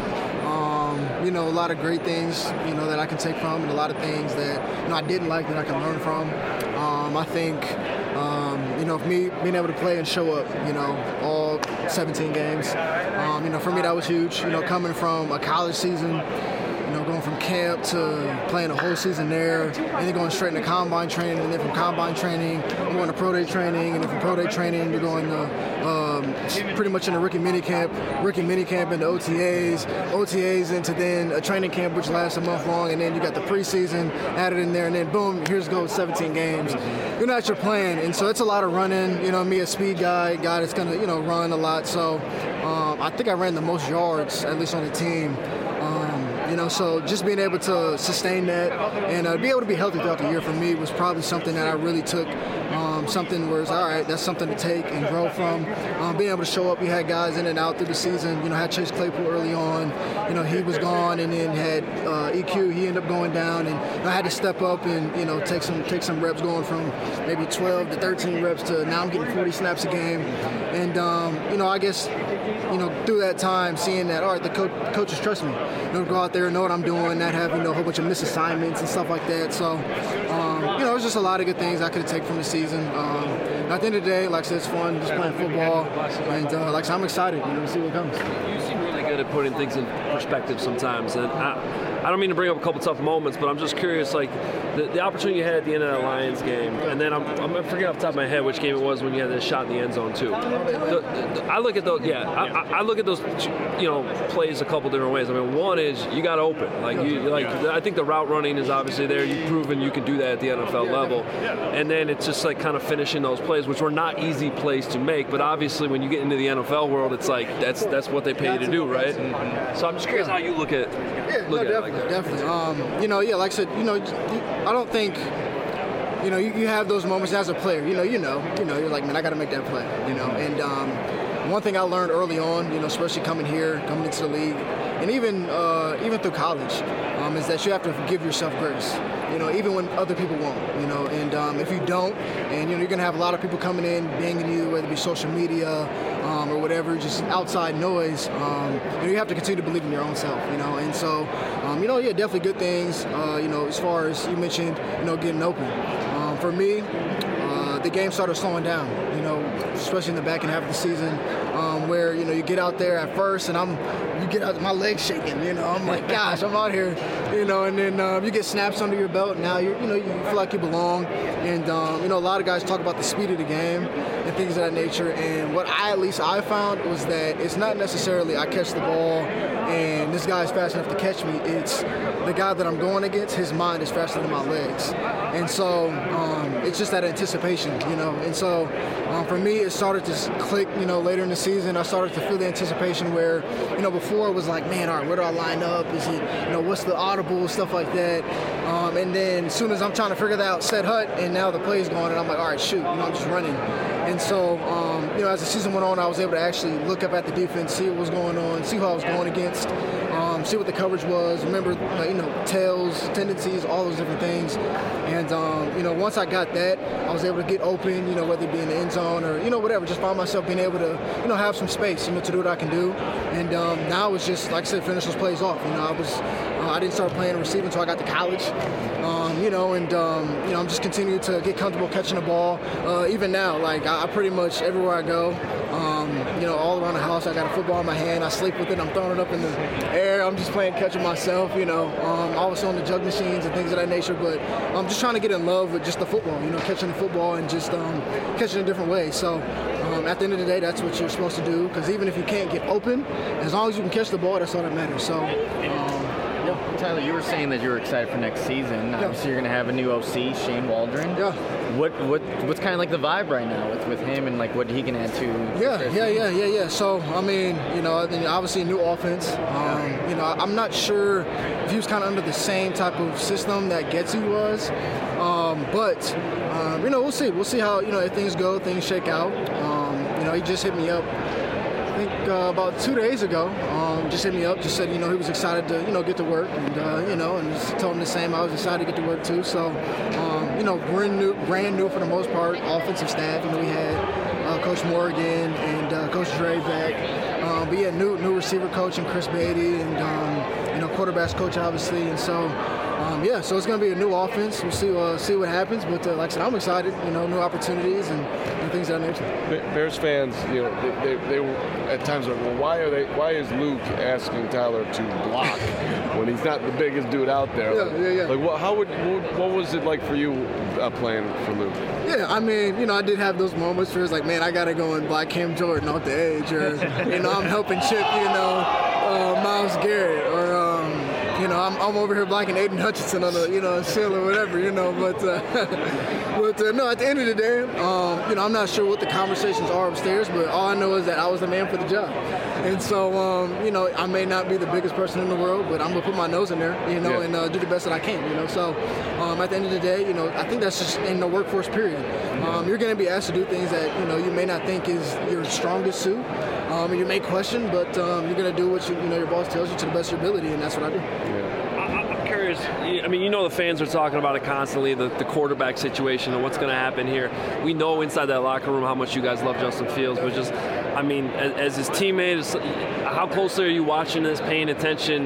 Um, you know, a lot of great things, you know, that I can take from, and a lot of things that, you know, I didn't like that I can learn from. Um, I think, um, you know, for me being able to play and show up, you know, all seventeen games, um, you know, for me that was huge. You know, coming from a college season, you know, going from camp to playing a whole season there, and then going straight into combine training, and then from combine training, I'm going to pro day training, and then from pro day training, you're going to um, pretty much in a rookie mini camp, rookie mini camp into O T As, O T As into then a training camp which lasts a month long, and then you got the preseason added in there, and then boom, here's goes seventeen games. You're not your plan, and so it's a lot of running. You know, me a speed guy, guy that's gonna you know run a lot. So um, I think I ran the most yards at least on the team. Um, You know, so just being able to sustain that and uh, be able to be healthy throughout the year for me was probably something that I really took um, um, something where it's all right, that's something to take and grow from. Um, being able to show up, you had guys in and out through the season. You know, had Chase Claypool early on. You know, he was gone, and then had uh, E Q. He ended up going down, and I had to step up and you know take some take some reps, going from maybe twelve to thirteen reps to now I'm getting forty snaps a game. And um, you know, I guess you know through that time, seeing that all right, the coach, coaches trust me. You know, go out there and know what I'm doing, not have you know a whole bunch of missed assignments and stuff like that. So um, you know, it was just a lot of good things I could have taken from the season. Um, at the end of the day, like I said, it's fun just playing football, and uh, like I said, I'm excited, you know, to see what comes. You seem really good at putting things in perspective sometimes, and I, I don't mean to bring up a couple tough moments, but I'm just curious, like the, the opportunity you had at the end of that Lions game, and then I'm, I'm forgetting off the top of my head which game it was when you had that shot in the end zone too. The, the, I look at those, yeah, I, I look at those, you know, plays a couple different ways. I mean, one is you got open, like you, like I think the route running is obviously there. You've proven you can do that at the N F L level, and then it's just like kind of finishing those plays, which were not easy plays to make, but obviously when you get into the N F L world, it's like that's that's what they pay you to do, right? And so I'm just curious how you look at yeah, look no, at definitely, it like that. definitely. Um, you know, yeah, like I said, you know, I don't think. You know, you, you have those moments as a player. You know, you know, you know, you're like, man, I got to make that play. You know, and um, one thing I learned early on, you know, especially coming here, coming into the league, and even uh, even through college, um, is that you have to give yourself grace. You know, even when other people won't. You know, and um, if you don't, and you know, you're gonna have a lot of people coming in, banging you, whether it be social media um, or whatever, just outside noise. Um, you know, you have to continue to believe in your own self. You know, and so, um, you know, yeah, definitely good things. Uh, you know, as far as you mentioned, you know, getting open. Um, for me, uh, the game started slowing down. You know, especially in the back half of the season, um, where you know you get out there at first, and I'm, you get out, my legs shaking. You know, I'm like, gosh, I'm out here. You know, and then uh, you get snaps under your belt. Now you you know you feel like you belong, and um, you know a lot of guys talk about the speed of the game and things of that nature. And what I at least I found was that it's not necessarily I catch the ball and this guy is fast enough to catch me. It's the guy that I'm going against. His mind is faster than my legs, and so um, it's just that anticipation, you know. And so um, for me, it started to click. You know, later in the season, I started to feel the anticipation where you know before it was like, man, all right, where do I line up? Is it you know what's the audible stuff like that? Um, and then as soon as I'm trying to figure that out, set hut, and now the play's going, and I'm like, all right, shoot, you know, I'm just running. And so, um, you know, as the season went on, I was able to actually look up at the defense, see what was going on, see who I was going against, um, see what the coverage was, remember, uh, you know, tails, tendencies, all those different things. And, um, you know, once I got that, I was able to get open, you know, whether it be in the end zone or, you know, whatever, just find myself being able to, you know, have some space, you know, to do what I can do. And um, now it's just, like I said, finish those plays off. You know, I was, uh, I didn't start playing receiving until I got to college. Um, you know, and, um, you know, I'm just continuing to get comfortable catching the ball. Uh, even now, like, I, I pretty much, everywhere I go, um, you know, all around the house, I got a football in my hand. I sleep with it. I'm throwing it up in the air. I'm just playing catch it myself, you know. Um, always on the jug machines and things of that nature. But I'm just trying to get in love with just the football, you know, catching the football and just um, catching it a different way. So um, at the end of the day, that's what you're supposed to do. Because even if you can't get open, as long as you can catch the ball, that's all that matters. So, um, Well, Tyler, you were saying that you were excited for next season. Yeah. Obviously, you're going to have a new O C, Shane Waldron. Yeah. What what what's kind of like the vibe right now with, with him and like what he can add to? Yeah, yeah, yeah, yeah, yeah. So I mean, you know, I mean, obviously a new offense. Um, you know, I'm not sure if he was kind of under the same type of system that Getsy was, um, but um, you know, we'll see. We'll see how you know if things go, things shake out. Um, you know, he just hit me up. I think uh, about two days ago, um, just hit me up, just said, you know, he was excited to, you know, get to work, and, uh, you know, and just told him the same. I was excited to get to work, too. So, um, you know, brand new, brand new for the most part, offensive staff. You know, we had uh, Coach Morgan and uh, Coach Dre back. Um, but, yeah, new new receiver coach and Chris Beatty and, um, you know, quarterbacks coach, obviously. And so, um, yeah, so it's going to be a new offense. We'll see uh, see what happens. But, uh, like I said, I'm excited, you know, new opportunities and, and things of that nature. Bears fans, you know, they, they, they were at times like, well, why are they? Why is Luke asking Tyler to block when he's not the biggest dude out there? Yeah, like, yeah, yeah. Like, what, how would, what, what was it like for you uh, playing for Luke? Yeah, I mean, you know, I did have those moments where it's like, man, I got to go and block Cam Jordan off the edge, or, you know, I'm helping Chip, you know, uh, Myles Garrett, or, um, you know, I'm I'm, I'm over here blocking Aiden Hutchinson on the, you know, shield or whatever, you know. But, uh, but uh, no, at the end of the day, um, you know, I'm not sure what the conversations are upstairs, but all I know is that I was the man for the job. And so, um, you know, I may not be the biggest person in the world, but I'm going to put my nose in there, you know, yeah. and uh, do the best that I can, you know. So um, at the end of the day, you know, I think that's just in the workforce period. Um, you're going to be asked to do things that, you know, you may not think is your strongest suit. Um, and you may question, but um, you're going to do what you, you know your boss tells you to the best of your ability, and that's what I do. Yeah. I, I'm curious. I mean, you know, the fans are talking about it constantly, the, the quarterback situation and what's going to happen here. We know inside that locker room how much you guys love Justin Fields, but just, I mean, as, as his teammate, how closely are you watching this, paying attention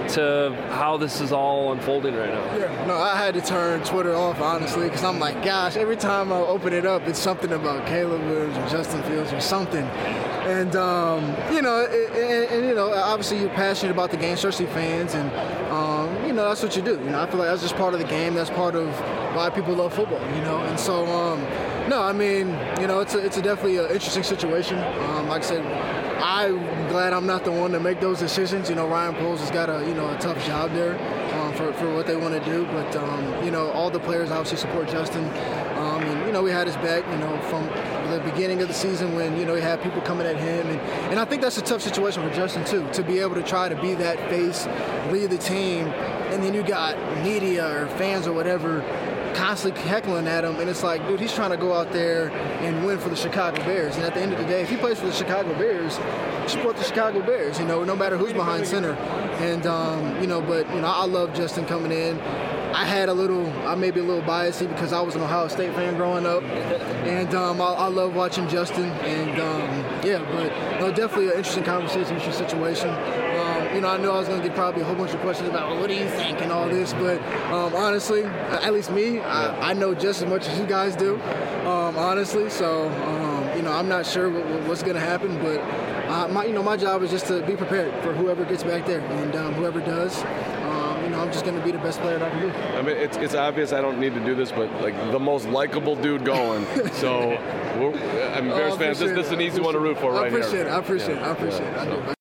to how this is all unfolding right now? Yeah, no, I had to turn Twitter off, honestly, because I'm like, gosh, every time I open it up, it's something about Caleb Williams or Justin Fields or something. And, um, you know, and, and, you know, obviously you're passionate about the game, especially fans, and, um, you know, that's what you do. You know, I feel like that's just part of the game. That's part of why people love football, you know. And so, um, no, I mean, you know, it's a, it's a definitely an interesting situation. Um, like I said, I'm glad I'm not the one to make those decisions. You know, Ryan Poles has got a, you know, a tough job there um, for, for what they want to do. But, um, you know, all the players obviously support Justin. Um, and, you know, we had his back, you know, from the beginning of the season when, you know, he had people coming at him. And, and I think that's a tough situation for Justin, too, to be able to try to be that face, lead the team, and then you got media or fans or whatever constantly heckling at him. And it's like, dude, he's trying to go out there and win for the Chicago Bears. And at the end of the day, if he plays for the Chicago Bears, support the Chicago Bears, you know, no matter who's behind center. And, um, you know, but, you know, I love Justin coming in. I had a little, I may be a little biased because I was an Ohio State fan growing up, and um, I, I love watching Justin, and um, yeah, but you know, definitely an interesting conversation, interesting situation. Um, you know, I knew I was going to get probably a whole bunch of questions about, well, what do you think and all this, but um, honestly, at least me, I, I know just as much as you guys do, um, honestly. So um, you know, I'm not sure what, what's going to happen, but uh, my, you know, my job is just to be prepared for whoever gets back there, and um, whoever does. You know, I'm just going to be the best player that I can be. I mean, it's, it's obvious I don't need to do this, but, like, the most likable dude going. So, we're, I mean, Bears oh, fans, this, this is an easy one to root for right I appreciate here. It, I appreciate yeah. it. I appreciate yeah. it. I do.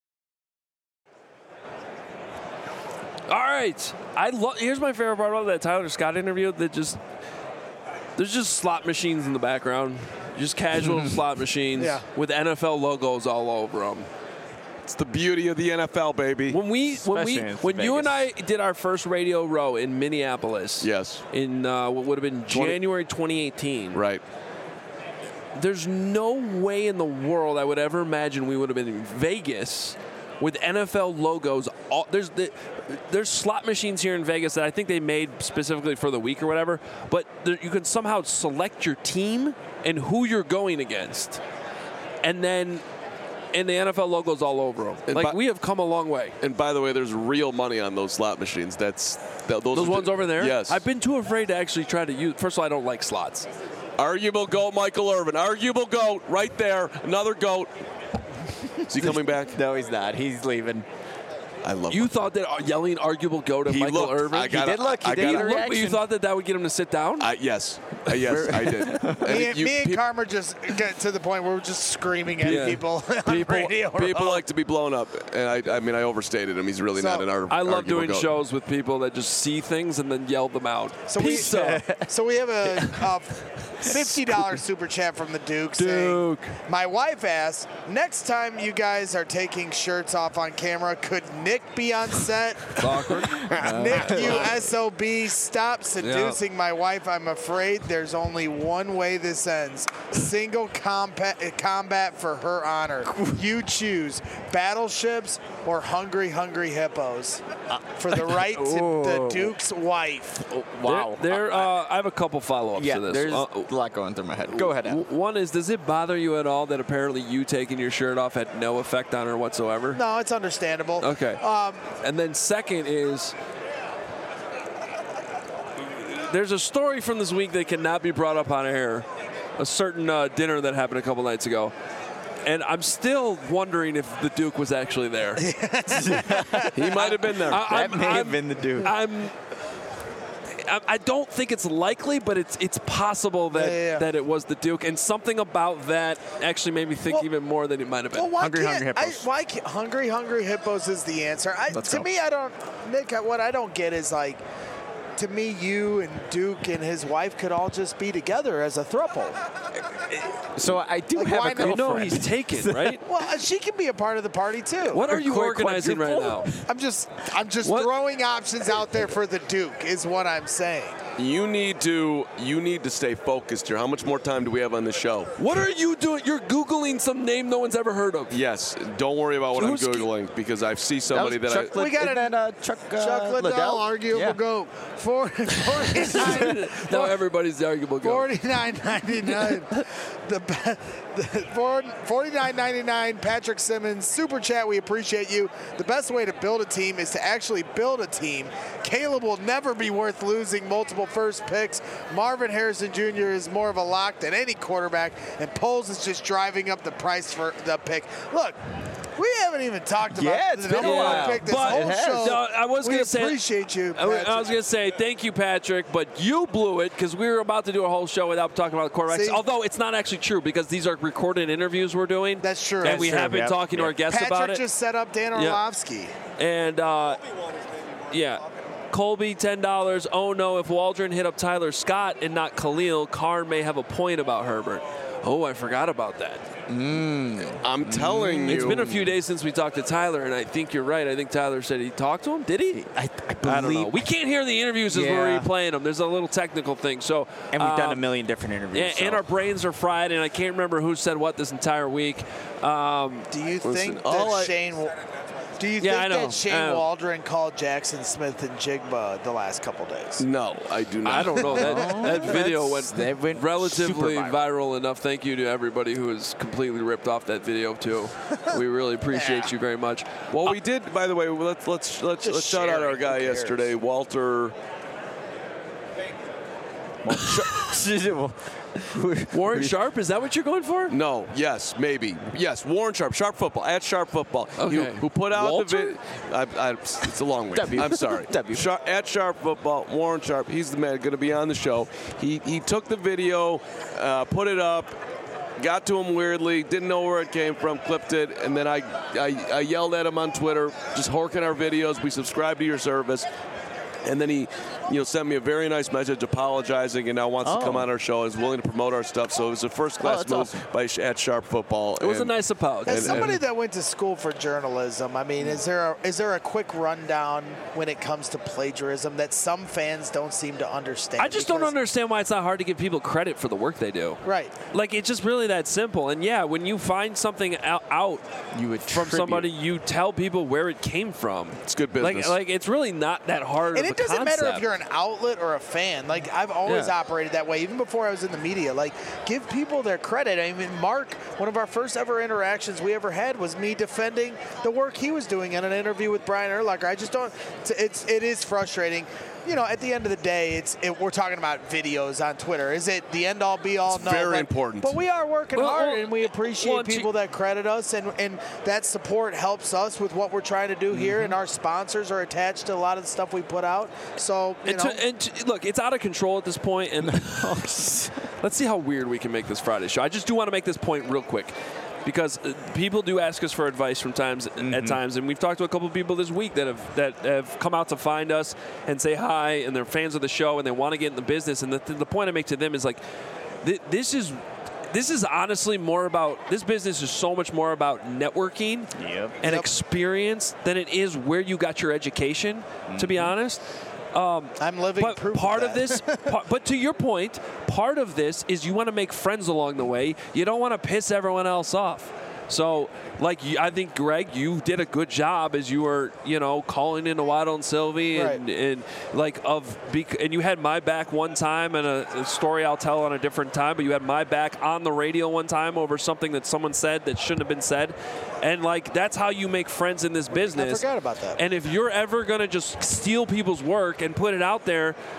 All right. I love. Here's my favorite part about that Tyler Scott interview. That just there's just slot machines in the background, just casual slot machines yeah. with N F L logos all over them. It's the beauty of the N F L, baby. When we, when we, when Vegas. you and I did our first Radio Row in Minneapolis, yes, in uh, what would have been January twenty eighteen, right? There's no way in the world I would ever imagine we would have been in Vegas with N F L logos. All, there's the, there's slot machines here in Vegas that I think they made specifically for the week or whatever, but there, you can somehow select your team and who you're going against, and then. And the N F L logos all over them. And like, by, we have come a long way. And by the way, there's real money on those slot machines. That's that, those, those ones over there? Yes. I've been too afraid to actually try to use. First of all, I don't like slots. Arguable GOAT, Michael Irvin. Arguable GOAT, right there. Another GOAT. Is he coming back? No, he's not. He's leaving. I love You him. thought that yelling arguable GOAT at he Michael looked, Irvin? I gotta, he did look. He I did gotta, get a look, reaction. but you thought that that would get him to sit down? I, yes. Uh, yes, I did. Me, and, you, me and pe- Karma just get to the point where we're just screaming at Yeah. people on People, radio. people like to be blown up, and I, I mean, I overstated him. He's really So, not an ar- I love arguable doing GOAT. shows with people that just see things and then yell them out. So we, Pizza. so we have a, a fifty dollars super chat from the Duke, Duke. saying, my wife asked, next time you guys are taking shirts off on camera, could Nick be on set? It's awkward. Nick, you S O B, stop seducing Yeah. my wife. I'm afraid there's only one way this ends. Single combat, combat for her honor. You choose battleships or hungry, hungry hippos for the right to the Duke's wife. Oh, wow. There, there, uh, I have a couple follow-ups yeah, to this. there's Uh, a lot going through my head. Go ahead, Al. One is, does it bother you at all that apparently you taking your shirt off had no effect on her whatsoever? No, it's understandable. Okay. Um, and then second is, there's a story from this week that cannot be brought up on air, a certain uh, dinner that happened a couple nights ago. And I'm still wondering if the Duke was actually there. He might have been there. I, That I'm, may I'm, have been the Duke. I'm, I, I don't think it's likely, but it's it's possible that Yeah, yeah, yeah. that it was the Duke, and something about that actually made me think Well- even more than it might have been. Well, why Hungry, can't, hungry I, hippos. why can't, hungry, hungry hippos is the answer. I, Let's to go. me, I don't, Nick. What I don't get is like, to me, you and Duke and his wife could all just be together as a throuple. So I do Like, have why a not? You girlfriend. know he's taken, right? Well, uh, she can be a part of the party too. What are you Quick organizing right now? quadruple? I'm just, I'm just What? throwing options out there for the Duke. Is what I'm saying. You need to you need to stay focused here. How much more time do we have on the show? What are you doing? You're Googling some name no one's ever heard of. Yes, don't worry about what Who's- I'm googling because I see somebody that, Chuck I. Lid- We got isn't it. that, uh, Chuck, uh, Chuck Liddell, Liddell? arguable Yeah. goat. Four, forty-nine, Now everybody's the arguable goat. forty-nine ninety-nine. The, be- the four- forty-nine ninety-nine. Patrick Simmons, super chat. We appreciate you. The best way to build a team is to actually build a team. Caleb will never be worth losing multiple first picks. Marvin Harrison Junior is more of a lock than any quarterback, and Poles is just driving up the price for the pick. Look. We haven't even talked about Yeah, it's the been number a one while. pick this But- whole It has. show. No, I was we gonna say- appreciate you, I, wa- I Patrick. was going to say thank you, Patrick, but you blew it because we were about to do a whole show without talking about the quarterbacks. See? Although it's not actually true because these are recorded interviews we're doing. That's true. And That's we true, have been yeah. talking to Yeah. our guests Patrick about it. just set up Dan Yeah. Orlovsky. And uh, yeah, Colby ten dollars. Oh no, if Waldron hit up Tyler Scott and not Khalil, Carr may have a point about Herbert. Oh, I forgot about that. I'm telling you. It's been a few days since we talked to Tyler, and I think you're right. I think Tyler said he talked to him. Did he? I, I I don't know. believe. We can't hear the interviews as Yeah. we're replaying them. There's a little technical thing. So And we've done a um, million different interviews. And, so. and our brains are fried, and I can't remember who said what this entire week. Um, Do you Listen, think that all I- Shane? Do you Yeah, I think know. that Shane Um, Waldron called Jackson Smith and Jigba the last couple days? No, I do not. I don't know. That, that video went, They went relatively super viral. viral. enough. Thank you to everybody who has completely ripped off that video, too. We really appreciate Yeah. you very much. Well, we did. By the way, let's let's let's, Just let's shout out sharing, our who guy cares? yesterday, Walter. Warren Sharp, is that what you're going for? No, yes, maybe, yes. Warren Sharp, Sharp Football at Sharp Football. Okay. Who, who put out Walter? the video? I, I, it's a long way. W. I'm sorry. W. Sharp, at Sharp Football, Warren Sharp. He's the man going to be on the show. He he took the video, uh, put it up. Got to him weirdly, didn't know where it came from, clipped it, and then I, I, I yelled at him on Twitter, just horking our videos. We subscribe to your service. And then he, you know, sent me a very nice message apologizing, and now wants Oh. to come on our show and is willing to promote our stuff. So it was a first-class Oh, that's move awesome. by at Sharp Football. It was a And- nice apology. As And- somebody and- that went to school for journalism, I mean, is there a, is there a quick rundown when it comes to plagiarism that some fans don't seem to understand? I just don't Because- understand why it's not hard to give people credit for the work they do. Right. Like, it's just really that simple. And yeah, when you find something out, out You would from somebody, you tell people where it came from. It's good business. Like, like it's really not that hard. And of it a doesn't matter if concept. you're an outlet or a fan. Like, I've always Yeah. operated that way, even before I was in the media. Like, give people their credit. I mean, Mark, one of our first ever interactions we ever had was me defending the work he was doing in an interview with Brian Urlacher. I just don't. It's, it's it is frustrating. You know, at the end of the day, it's it, we're talking about videos on Twitter. Is it the end all be all? It's no, very but, important. But we are working Well, hard, well, and we appreciate well, to- people that credit us, and and that support helps us with what we're trying to do here. Mm-hmm. And our sponsors are attached to a lot of the stuff we put out. So you And, know. to, and to, look, it's out of control at this point, and let's see how weird we can make this Friday show. I just do want to make this point real quick, because uh, people do ask us for advice from times at times, and we've talked to a couple of people this week that have that have come out to find us and say hi, and they're fans of the show, and they want to get in the business. And the, the point I make to them is like, th- this is. This is honestly more about, this business is so much more about networking Yep. and Yep. experience than it is where you got your education, to be honest. Um, I'm living but proof part of, of that. this, pa- but to your point, part of this is you want to make friends along the way. You don't want to piss everyone else off. So, like, you- I think, Greg, you did a good job as you were, you know, calling into Waddle and Sylvie, and, Right. and like of, bec- and you had my back one time, and a, a story I'll tell on a different time. But you had my back on the radio one time over something that someone said that shouldn't have been said, and like that's how you make friends in this business. forgot about that. And if you're ever gonna just steal people's work and put it out there,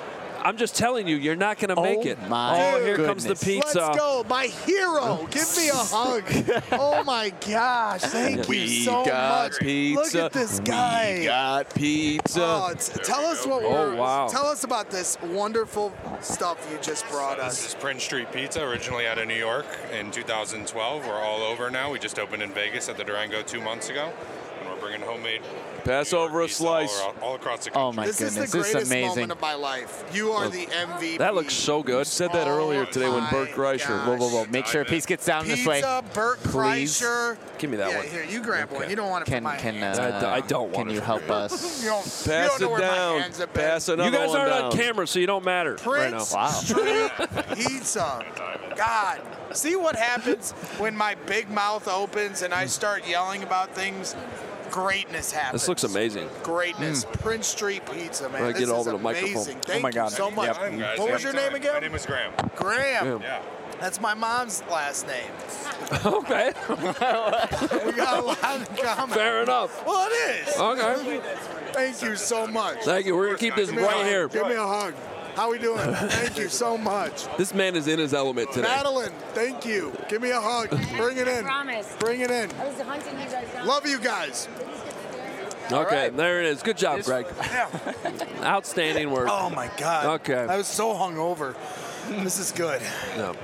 I'm just telling you, you're not going to make Oh it. my oh, here goodness. comes the pizza. Let's go, my hero. Give me a hug. Oh my gosh, thank We you so got much. pizza. Look at this guy. We got pizza. Oh, t- tell us what Oh, we're. wow. Tell us about this wonderful stuff you just brought This us. is Prince Street Pizza, originally out of New York in two thousand twelve. We're all over now. We just opened in Vegas at the Durango two months ago, and we're bringing homemade Pass New York over a pizza all, slice. around- all across the country. Oh my This goodness, is the this is greatest amazing. moment of my life. You are the M V P. That looks so good. Said that Oh earlier today when my Bert Kreischer. gosh. Whoa, whoa, whoa! Make sure a piece gets down this way. Pizza, Bert Please. Kreischer. Give me that yeah, one. here, you grab one. Okay. You don't want it Can from my can hands. uh, I don't want Can it you from help You us? don't, you Pass don't know it where my down. hands have been. Pass another You guys one aren't down. on camera, so you don't matter right now. Prince Wow. Street Pizza. God, see what happens when my big mouth opens and I start yelling about things? Greatness happens. This looks amazing. Greatness. Prince Street Pizza, man. Right, this get is over the amazing. microphone. Thank Oh my God. you so much. Yep. Time, guys. What was your Anytime. name again? My name is Graham. Graham. Yeah. That's my mom's last name. Okay. We got a lot in common. Fair enough. Well, it is. Okay. Thank you so much. Thank you. We're going to keep this Give me a right hug. here. Give me a hug. How we doing? Thank you so much. This man is in his element today. Madeline, thank you. Give me a hug. Bring it in. Promise. Bring it in. I was hunting you guys down. Love you guys. Okay, there it is. Good job, Greg. Yeah. Outstanding work. Oh my God. Okay. I was so hungover. This is good. No.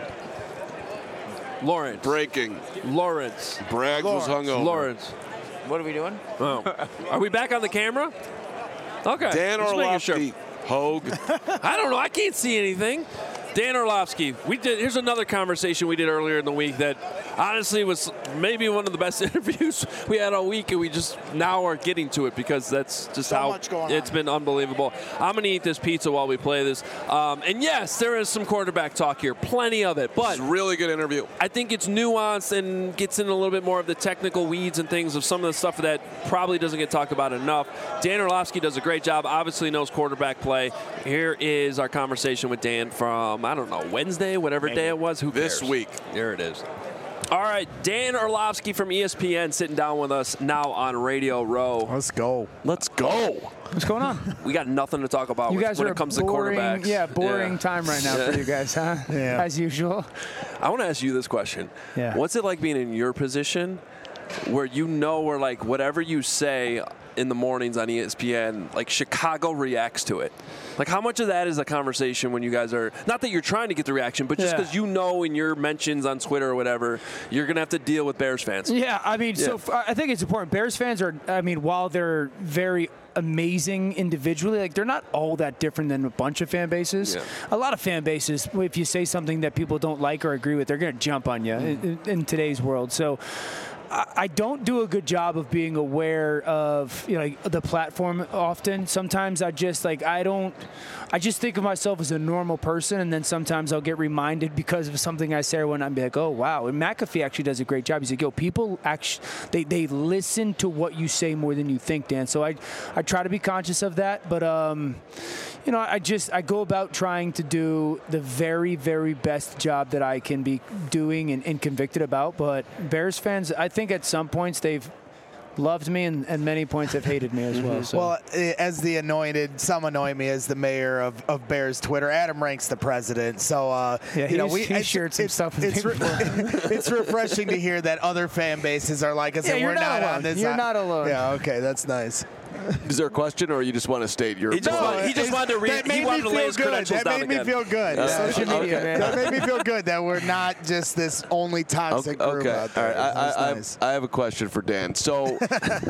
Lawrence. Breaking. Lawrence. Braggs was Lawrence. hungover. Lawrence. What are we doing? Oh. Are we back on the camera? Okay. Dan just making sure. Orlovsky. Hogue. I don't know. I can't see anything. Dan Orlovsky. We did. Here's another conversation we did earlier in the week that honestly was maybe one of the best interviews we had all week, and we just now are getting to it because that's just So how much going it's on. been unbelievable. I'm gonna eat this pizza while we play this, um, and yes, there is some quarterback talk here, plenty of it, but It's a really good interview. I think it's nuanced and gets in a little bit more of the technical weeds and things of some of the stuff that probably doesn't get talked about enough. Dan Orlovsky does a great job, obviously knows quarterback play. Here is our conversation with Dan from, I don't know, Wednesday, whatever day it was. Who This cares? week. There it is. All right, Dan Orlovsky from E S P N sitting down with us now on Radio Row. Let's go. Let's go. What's going on? We got nothing to talk about You when guys when are it comes boring, to quarterbacks. Yeah, boring Yeah. time right now Yeah. for you guys, huh? Yeah. As usual. I want to ask you this question. Yeah. What's it like being in your position where you know where, like, whatever you say in the mornings on E S P N, like, Chicago reacts to it? Like, how much of that is a conversation when you guys are, not that you're trying to get the reaction, but just Yeah. because you know in your mentions on Twitter or whatever, you're going to have to deal with Bears fans. Yeah, I mean, so Yeah. f- I think it's important. Bears fans are, I mean, while they're very amazing individually, like they're not all that different than a bunch of fan bases. Yeah. A lot of fan bases, if you say something that people don't like or agree with, they're going to jump on you in, in today's world. So I I don't do a good job of being aware of, you know, like, the platform often. Sometimes I just like I don't I just think of myself as a normal person, and then sometimes I'll get reminded because of something I say or when I'm like, oh wow. And McAfee actually does a great job. He's like, yo, people actually they, they listen to what you say more than you think, Dan. So I I try to be conscious of that, but um you know, I just I go about trying to do the very, very best job that I can be doing and, and convicted about. But Bears fans, I think at some points they've loved me, and, and many points have hated me as well. So. Well, eh, as the anointed, some anoint me as the mayor of, of Bears Twitter. Adam ranks the president, so uh, Yeah, you know he's- we he's it's- shared some it's, stuff with It's, me re- it's refreshing to hear that other fan bases are like us, Yeah, and you're we're not not, alone. on this. You're side. not alone. Yeah, okay, that's nice. Is there a question, or you just want to state your? He just, No, wanted, he just it's- wanted to, re- that he made wanted me to lay feel his good. credentials That down made me again. feel good. Uh, Social okay. media, man. That made me feel good that we're not just this only toxic Okay. group okay. out there. All right. I, That's I, nice. I, I have a question for Dan. So,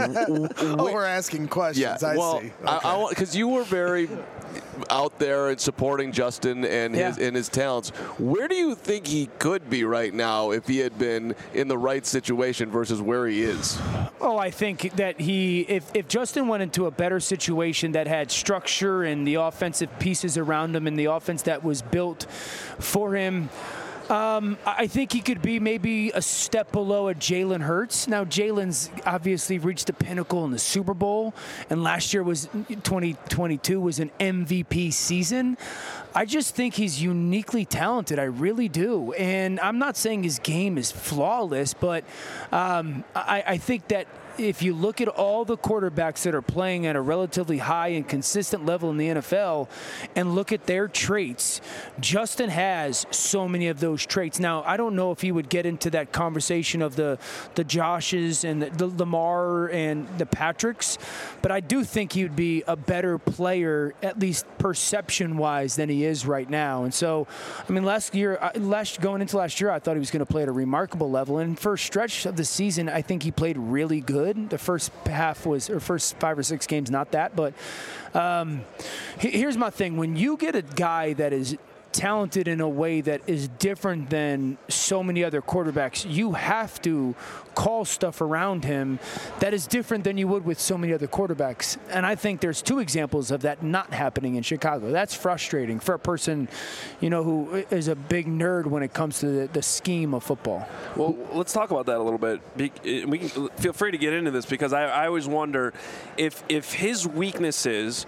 oh, we're asking questions. yeah. I well, see. I, Okay. I want because you were very out there and supporting Justin and his Yeah. and his talents. Where do you think he could be right now if he had been in the right situation versus where he is? Oh, I think that he, if, if Justin went into a better situation that had structure and the offensive pieces around him and the offense that was built for him, Um, I think he could be maybe a step below a Jalen Hurts. Now, Jalen's obviously reached the pinnacle in the Super Bowl, and last year was twenty twenty-two was an M V P season. I just think he's uniquely talented. I really do. And I'm not saying his game is flawless, but um, I, I think that if you look at all the quarterbacks that are playing at a relatively high and consistent level in the N F L and look at their traits, Justin has so many of those traits. Now, I don't know if he would get into that conversation of the, the Joshes and the, the Lamar and the Patricks, but I do think he would be a better player, at least perception-wise, than he is right now. And so, I mean, last year, last going into last year, I thought he was going to play at a remarkable level. And for a stretch of the season, I think he played really good. The first half was, or first five or six games, not that. But um, here's my thing. When you get a guy that is talented in a way that is different than so many other quarterbacks, you have to call stuff around him that is different than you would with so many other quarterbacks. And I think there's two examples of that not happening in Chicago. That's frustrating for a person, you know, who is a big nerd when it comes to the, the scheme of football. Well, let's talk about that a little bit. We can feel free to get into this because I, I always wonder if if his weaknesses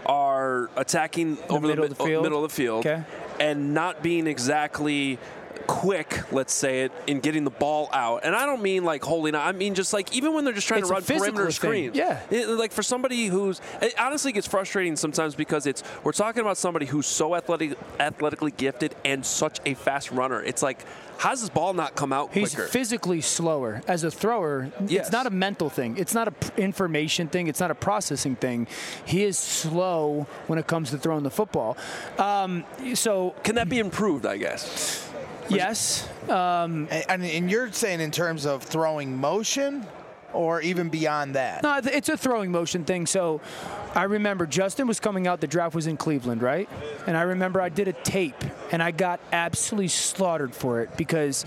are attacking the over middle the, of the field. middle of the field Okay. and not being exactly quick, let's say it, in getting the ball out. And I don't mean like holding out. I mean just like even when they're just trying It's to a run physical perimeter thing. screens. Yeah. It, like for somebody who's it honestly gets frustrating sometimes because it's we're talking about somebody who's so athletic, athletically gifted and such a fast runner. It's like, how does this ball not come out He's quicker? physically slower as a thrower. Yes. It's not a mental thing. It's not an information thing. It's not a processing thing. He is slow when it comes to throwing the football. Um, so can that be improved, I guess? Yes. Um, and, and you're saying in terms of throwing motion or even beyond that? No, it's a throwing motion thing. So I remember Justin was coming out. The draft was in Cleveland, right? And I remember I did a tape, and I got absolutely slaughtered for it because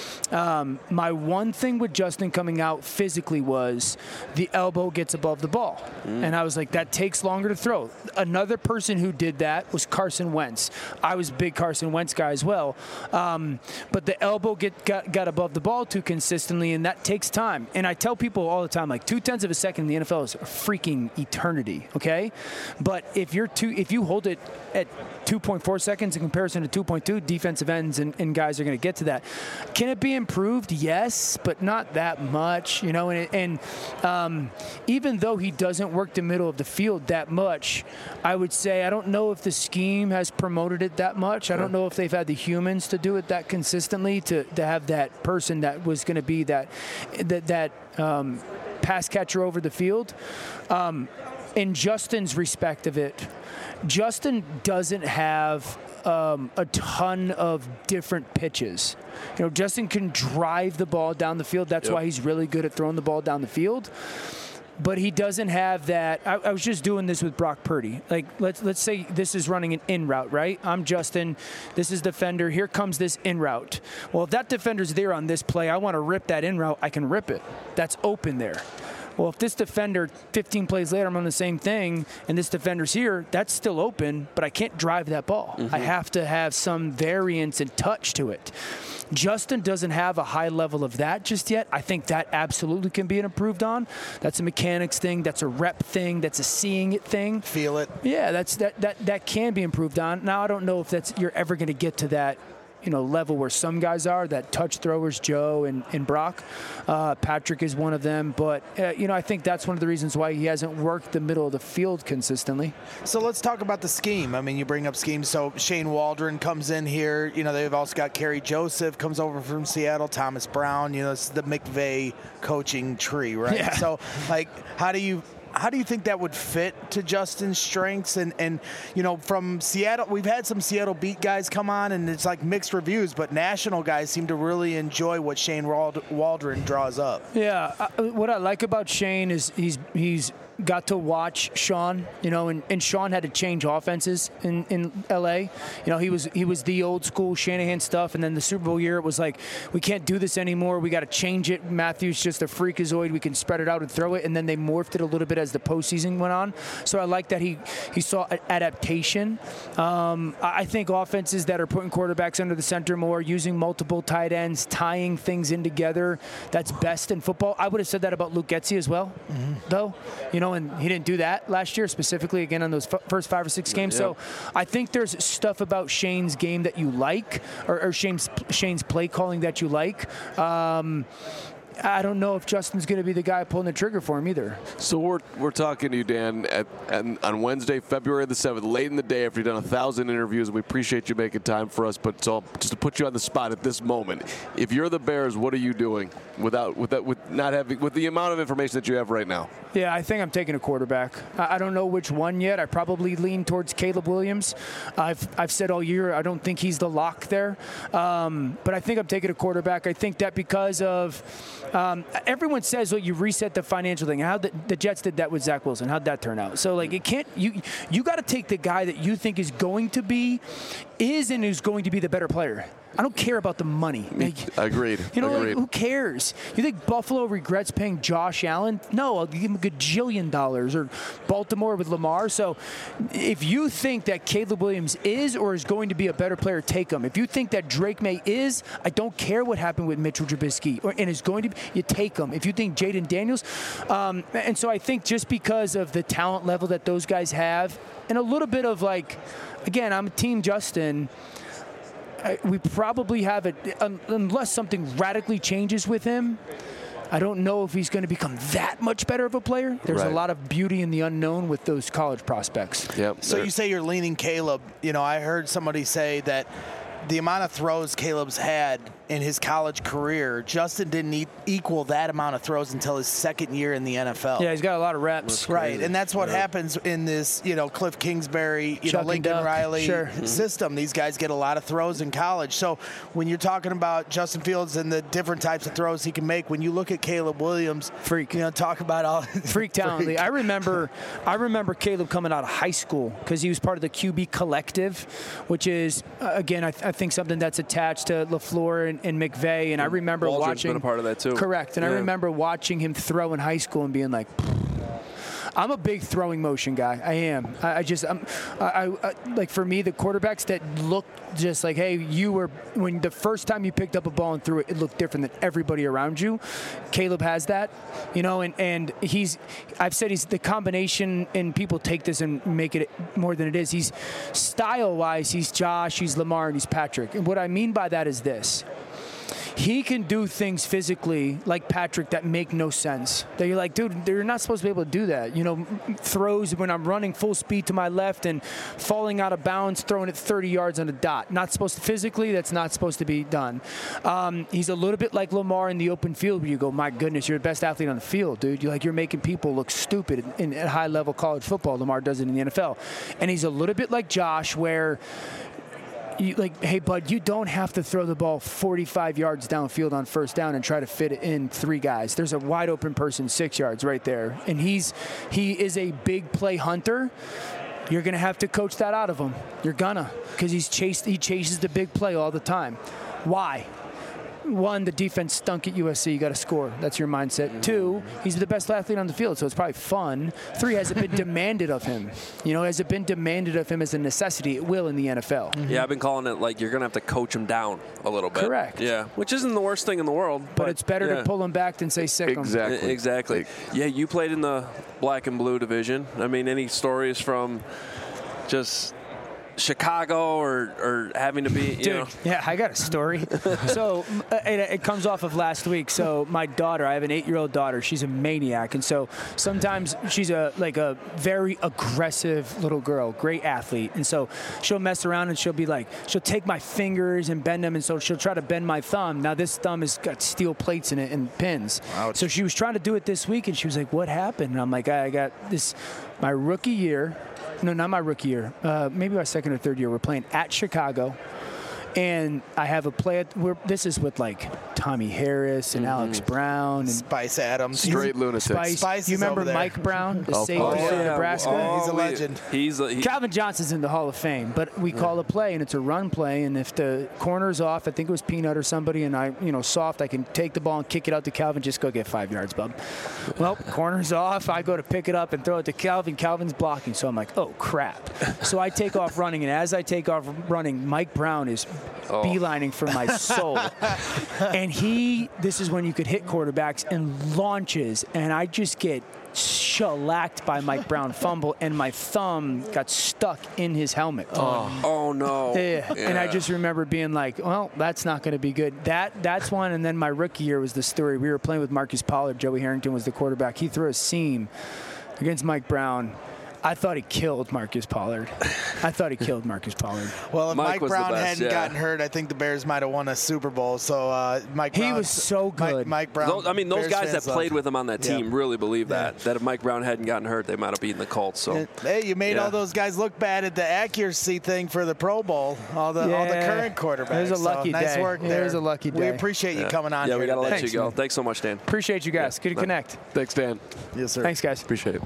um, my one thing with Justin coming out physically was the elbow gets above the ball. Mm. And I was like, that takes longer to throw. Another person who did that was Carson Wentz. I was a big Carson Wentz guy as well. Um, but the elbow get, got, got above the ball too consistently, and that takes time. And I tell people all the time, like two-tenths of a second in the N F L is a freaking eternity, okay? But if you're two, if you hold it at two point four seconds in comparison to two point two, defensive ends and, and guys are going to get to that. Can it be improved? Yes, but not that much, you know. And, and um, even though he doesn't work the middle of the field that much, I would say I don't know if the scheme has promoted it that much. I don't know if they've had the humans to do it that consistently to, to have that person that was going to be that that that um, pass catcher over the field. Um, in Justin's respect of it, Justin doesn't have um, a ton of different pitches. You know, Justin can drive the ball down the field. That's Yep. why he's really good at throwing the ball down the field. But he doesn't have that. I, I was just doing this with Brock Purdy. Like, let's let's say this is running an in route, right? I'm Justin. This is defender. Here comes this in route. Well, if that defender's there on this play, I want to rip that in route. I can rip it. That's open there. Well, if this defender, fifteen plays later, I'm on the same thing, and this defender's here, that's still open, but I can't drive that ball. Mm-hmm. I have to have some variance and touch to it. Justin doesn't have a high level of that just yet. I think that absolutely can be improved on. That's a mechanics thing. That's a rep thing. That's a seeing it thing. Feel it. Yeah, that's that that that can be improved on. Now, I don't know if that's you're ever going to get to that, you know, level where some guys are, that touch throwers, Joe and, and Brock. Uh, Patrick is one of them. But, uh, you know, I think that's one of the reasons why he hasn't worked the middle of the field consistently. So let's talk about the scheme. I mean, you bring up schemes. So Shane Waldron comes in here. You know, they've also got Kerry Joseph, comes over from Seattle, Thomas Brown. You know, it's the McVay coaching tree, right? Yeah. So, like, how do you... How do you think that would fit to Justin's strengths? And, and, you know, from Seattle, we've had some Seattle beat guys come on, and it's like mixed reviews, but national guys seem to really enjoy what Shane Wald- Waldron draws up. Yeah, uh, what I like about Shane is he's he's got to watch Sean, you know, and, and Sean had to change offenses in, in L A. You know, he was he was the old school Shanahan stuff, and then the Super Bowl year, it was like, we can't do this anymore. We got to change it. Matthew's just a freakazoid. We can spread it out and throw it, and then they morphed it a little bit as the postseason went on. So I like that he, he saw adaptation. Um, I think offenses that are putting quarterbacks under the center more, using multiple tight ends, tying things in together, that's best in football. I would have said that about Luke Getsy as well, mm-hmm. though. You know, and he didn't do that last year, specifically, again, on those f- first five or six games. Yep. So I think there's stuff about Shane's game that you like, or, or Shane's, Shane's play calling that you like. Um, I don't know if Justin's going to be the guy pulling the trigger for him either. So we're we're talking to you, Dan, at, at, on Wednesday, February the seventh, late in the day after you've done a thousand interviews. We appreciate you making time for us, but so just to put you on the spot at this moment, if you're the Bears, what are you doing without with that with not having with the amount of information that you have right now? Yeah, I think I'm taking a quarterback. I, I don't know which one yet. I probably lean towards Caleb Williams. I've I've said all year I don't think he's the lock there, um, but I think I'm taking a quarterback. I think that because of um, everyone says, well, you reset the financial thing. How the, the Jets did that with Zach Wilson. How'd that turn out? So like it can't you you got to take the guy that you think is going to be is and is going to be the better player. I don't care about the money. Like, Agreed. You know, Agreed. like, who cares? You think Buffalo regrets paying Josh Allen? No, I'll give him a gajillion dollars. Or Baltimore with Lamar. So if you think that Caleb Williams is or is going to be a better player, take him. If you think that Drake May is, I don't care what happened with Mitchell Trubisky, or, and is going to be, you take him. If you think Jaden Daniels, um, and so I think just because of the talent level that those guys have, and a little bit of like, again, I'm Team Justin. We probably have it, unless something radically changes with him. I don't know if he's going to become that much better of a player. There's Right. a lot of beauty in the unknown with those college prospects. Yep. So you say you're leaning Caleb. You know, I heard somebody say that the amount of throws Caleb's had in his college career, Justin didn't e- equal that amount of throws until his second year in the N F L. Yeah, he's got a lot of reps. Right, and that's what Yeah. happens in this, you know, Cliff Kingsbury, you Chuck know, and Lincoln Duck. Riley Sure. system. These guys get a lot of throws in college. So when you're talking about Justin Fields and the different types of throws he can make, when you look at Caleb Williams, freak, you know, talk about all freak talent. I remember, I remember Caleb coming out of high school because he was part of the Q B collective, which is uh, again, I, th- I think something that's attached to LaFleur and, and McVay. And I remember Waldron's watching. been a part of that too. Correct. And Yeah. I remember watching him throw in high school and being like, I'm a big throwing motion guy. I am. I, I just, I'm, I, I, I, like for me, the quarterbacks that look just like, hey, you were, when the first time you picked up a ball and threw it, it looked different than everybody around you. Caleb has that, you know, and, and he's, I've said he's the combination, and people take this and make it more than it is. He's style-wise, he's Josh, he's Lamar, and he's Patrick. And what I mean by that is this. He can do things physically like Patrick that make no sense. That you're like, dude, you're not supposed to be able to do that. You know, throws when I'm running full speed to my left and falling out of bounds, throwing it thirty yards on a dot. Not supposed to physically. That's not supposed to be done. Um, he's a little bit like Lamar in the open field, where you go, my goodness, you're the best athlete on the field, dude. You're like you're making people look stupid in, in at high level college football. Lamar does it in the N F L, and he's a little bit like Josh, where. You, like, hey, bud, you don't have to throw the ball forty-five yards downfield on first down and try to fit it in three guys. There's a wide open person six yards right there. And he's he is a big play hunter. You're going to have to coach that out of him. You're gonna, because he's chased he chases the big play all the time. Why? One, the defense stunk at U S C. You got to score. That's your mindset. Two, he's the best athlete on the field, so it's probably fun. Three, has it been demanded of him? You know, has it been demanded of him as a necessity? It will in the N F L. Yeah, I've been calling it like you're going to have to coach him down a little bit. Correct. Yeah, which isn't the worst thing in the world. But, But it's better yeah. to pull him back than say sick him. E- Exactly. Yeah, you played in the black and blue division. I mean, any stories from just Chicago or, or having to be, you Dude, know. yeah, I got a story. so uh, it, it comes off of last week. So my daughter, I have an eight-year-old daughter. She's a maniac, and so sometimes she's a like a very aggressive little girl, great athlete, and so she'll mess around and she'll be like, she'll take my fingers and bend them, and so she'll try to bend my thumb. Now this thumb has got steel plates in it and pins. Ouch. So she was trying to do it this week, and she was like, "What happened?" And I'm like, "I got this, my rookie year." No, not my rookie year. Uh, maybe my second or third year. We're playing at Chicago, and I have a play. At, we're, this is with like Tommy Harris and mm-hmm. Alex Brown and Spice Adams. Straight lunatics. Spice. Spice you is remember over there. Mike Brown, the Oh, safety oh, from yeah. Nebraska? Oh, He's a we- legend. He's a, he, Calvin Johnson's in the Hall of Fame, but we call a play and it's a run play, and if the corner's off, I think it was Peanut or somebody, and I, you know, soft, I can take the ball and kick it out to Calvin, just go get five yards, bub. Well, corner's off, I go to pick it up and throw it to Calvin. Calvin's blocking, so I'm like, oh crap. So I take off running, and as I take off running, Mike Brown is oh. beelining for my soul. And he, this is when you could hit quarterbacks and launches, and I just get shellacked by Mike Brown fumble, and my thumb got stuck in his helmet. Oh, oh no. Yeah. yeah. And I just remember being like, well, that's not going to be good. That That's one. And then my rookie year was the story. We were playing with Marcus Pollard. Joey Harrington was the quarterback. He threw a seam against Mike Brown. I thought he killed Marcus Pollard. I thought he killed Marcus Pollard. Well, if Mike Mike Brown best, hadn't yeah. gotten hurt, I think the Bears might have won a Super Bowl. So uh, Mike He Brown, was so good. Mike, Mike Brown. Those, I mean, those Bears guys that fans played love. with him on that team Yeah. really believe Yeah. that. That if Mike Brown hadn't gotten hurt, they might have beaten the Colts. So, Hey, you made Yeah. all those guys look bad at the accuracy thing for the Pro Bowl. All the all the Yeah. current quarterbacks. It was a lucky so nice day. work It there. was a lucky We day. appreciate you yeah. coming on. Yeah, here we got to let today. you go. man. Thanks so much, Dan. Appreciate you guys. Good to connect. Thanks, Dan. Yes, sir. Thanks, guys. Appreciate it.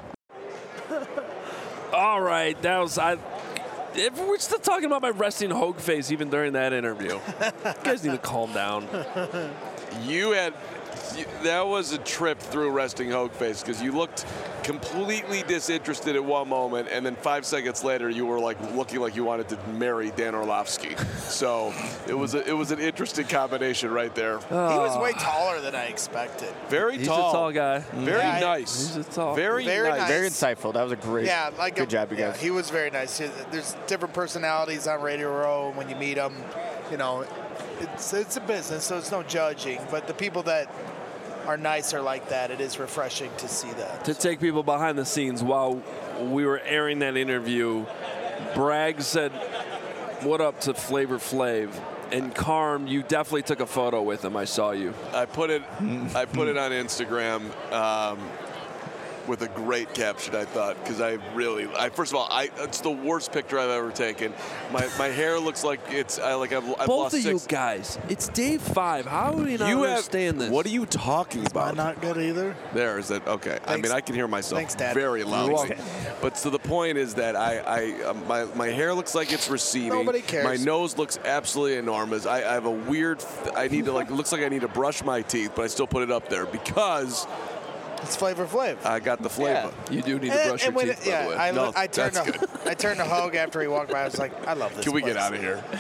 All right, that was I. If we're still talking about my resting Hogue face even during that interview. You guys need to calm down. You had you, that was a trip through resting Hogue face because you looked completely disinterested at one moment, and then five seconds later you were like looking like you wanted to marry Dan Orlovsky. So it was a, it was an interesting combination right there. He was way taller than I expected. Very He's tall. a tall guy. Very Yeah, I- nice. He's a tall. Very, Very nice. nice. Very insightful. That was a great. Yeah, like good a, job, you yeah, guys. he was very nice. There's different personalities on Radio Row. When you meet them, you know, it's it's a business, so it's no judging. But the people that are nicer like that, it is refreshing to see that. To take people behind the scenes while we were airing that interview, Bragg said, "What up to Flavor Flav?" And Carm, you definitely took a photo with him. I saw you. I put it I put it on Instagram um, with a great caption, I thought, because I really I first of all I it's the worst picture I've ever taken. My my hair looks like it's I like I've, I've Both lost of six. you guys, it's day five. How do we not You have- understand this? What are you talking about? I'm not good either. There is that okay. I Thanks. mean, I can hear myself Thanks, Dad. very You're loudly. welcome. But so the point is that I, I uh, my my hair looks like it's receding. Nobody cares. My nose looks absolutely enormous. I, I have a weird. I need to like. It looks like I need to brush my teeth, but I still put it up there because It's Flavor Flav. I got the flavor. You do need to And- brush and your when teeth, it- by yeah, the way. I, No, I turned that's to I turned to Hogue after he walked by. I was like, I love this. Can we get place. out of here?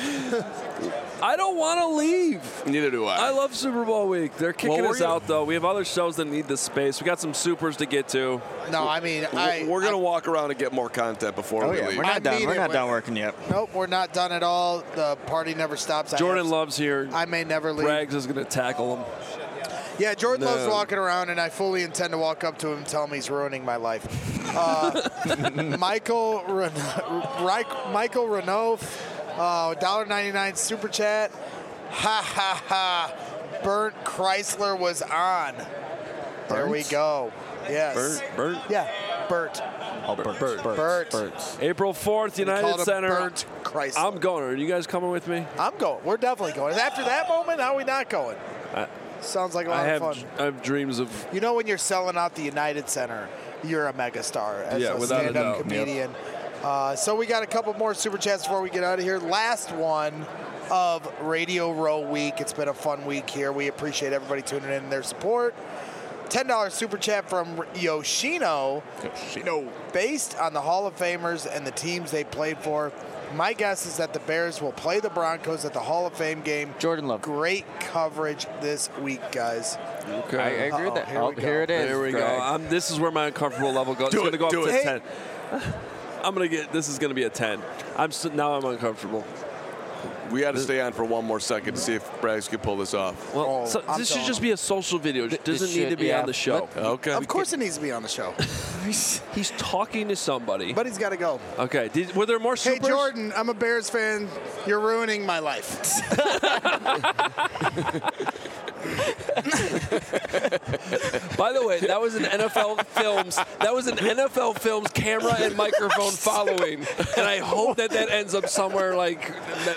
I don't want to leave. Neither do I. I love Super Bowl week. They're kicking Well, we're us gonna- out, though. We have other shows that need this space. We got some supers to get to. No, I mean, I. We're gonna walk around and get more content before Oh we yeah, leave. we're I not done. mean We're it not when- done working yet. Nope, we're not done at all. The party never stops. I Jordan have- Love's here. I may never leave. Braggs is going to tackle him. Yeah, Jordan No. Love's walking around, and I fully intend to walk up to him and tell him he's ruining my life. Uh, Michael Ren- Reich- Michael Renault, uh, one dollar ninety-nine super chat. Ha ha ha! Burnt Chrysler was on. There we go. Yes. Bert, Bert. Yeah, Bert. Oh, Bert. Bert. Bert. Birds. April fourth, We United called him Center. Burnt Chrysler. I'm going. Are you guys coming with me? I'm going. We're definitely going. After that moment, how are we not going? I, Sounds like a lot I have of fun. I have dreams of. You know when you're selling out the United Center, you're a megastar as Yeah, a without a stand-up doubt. comedian. Uh, so we got a couple more super chats before we get out of here. Last one of Radio Row Week. It's been a fun week here. We appreciate everybody tuning in and their support. ten dollars super chat from Yoshino. Yoshino. Based on the Hall of Famers and the teams they played for, my guess is that the Bears will play the Broncos at the Hall of Fame game. Jordan Love. Great coverage this week, guys. Okay. I, I agree with Uh-oh, that. here Oh, we go. here it is. There we go. Greg. I'm, this is where my uncomfortable level goes. Do It's going to it, go up do to it. ten. I'm going to get. This is going to be a ten. I'm s- now I'm uncomfortable. We got to stay on for one more second to see if Braggs can pull this off. Well, Oh, so I'm this should telling just him. be a social video. It doesn't This need to should- be yeah. on the show. Okay. Of course it needs to be on the show. He's, he's talking to somebody. But he's got to go. Okay. Did, were there more Hey, supers? Jordan, I'm a Bears fan. You're ruining my life. By the way, that was an N F L Films. That was an N F L Films camera and microphone following, and I hope that that ends up somewhere like. That.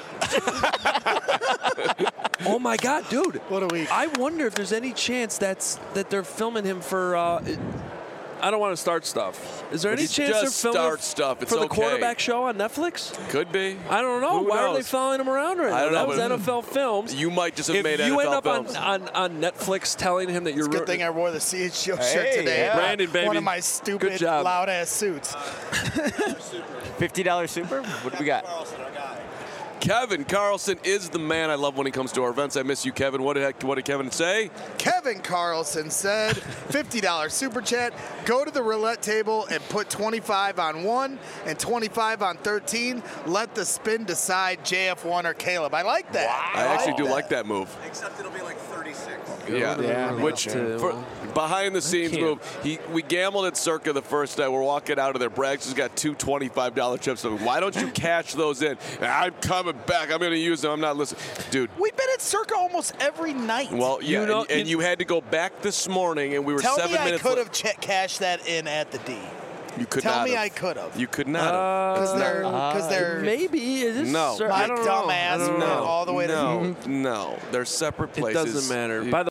Oh my God, dude! What a week. I wonder if there's any chance that's that they're filming him for. Uh, I don't want to start stuff. Is there any Just chance they're filming start stuff. It's for the okay. quarterback show on Netflix? Could be. I don't know. Who Why are they knows? following him around right now? I don't that know, was but- N F L Films. You might just have If made you N F L end up on, films. on, on Netflix telling him that you're Good ru- thing I wore the C H O shirt Hey, today. yeah. Brandon, baby. One of my Good stupid, job. loud-ass suits. fifty dollars super? What do we got? Kevin Carlson is the man. I love when he comes to our events. I miss you, Kevin. What did, what did Kevin say? Kevin Carlson said, fifty dollars super chat. Go to the roulette table and put twenty-five on one and twenty-five on thirteen. Let the spin decide J F one or Caleb. I like that. Wow. I, I actually like do that. like that move. Except it'll be like thirty-six. Yeah, yeah which for, behind the scenes move. He we gambled at Circa the first night. We're walking out of there. Braggs has got two twenty-five dollar chips. So why don't you cash those in? I'm coming back. I'm going to use them. I'm not listening, dude. We've been at Circa almost every night. Well, yeah, you know, and, and you, you had to go back this morning, and we were tell seven me I minutes. could have ch- cashed that in at the D. You could Tell not me have. I could have. You could not uh, have. Because they're, cause they're maybe is this no. Sir, my I don't dumbass know. went No, all the way no, to no. They're separate places. It doesn't matter. You, By the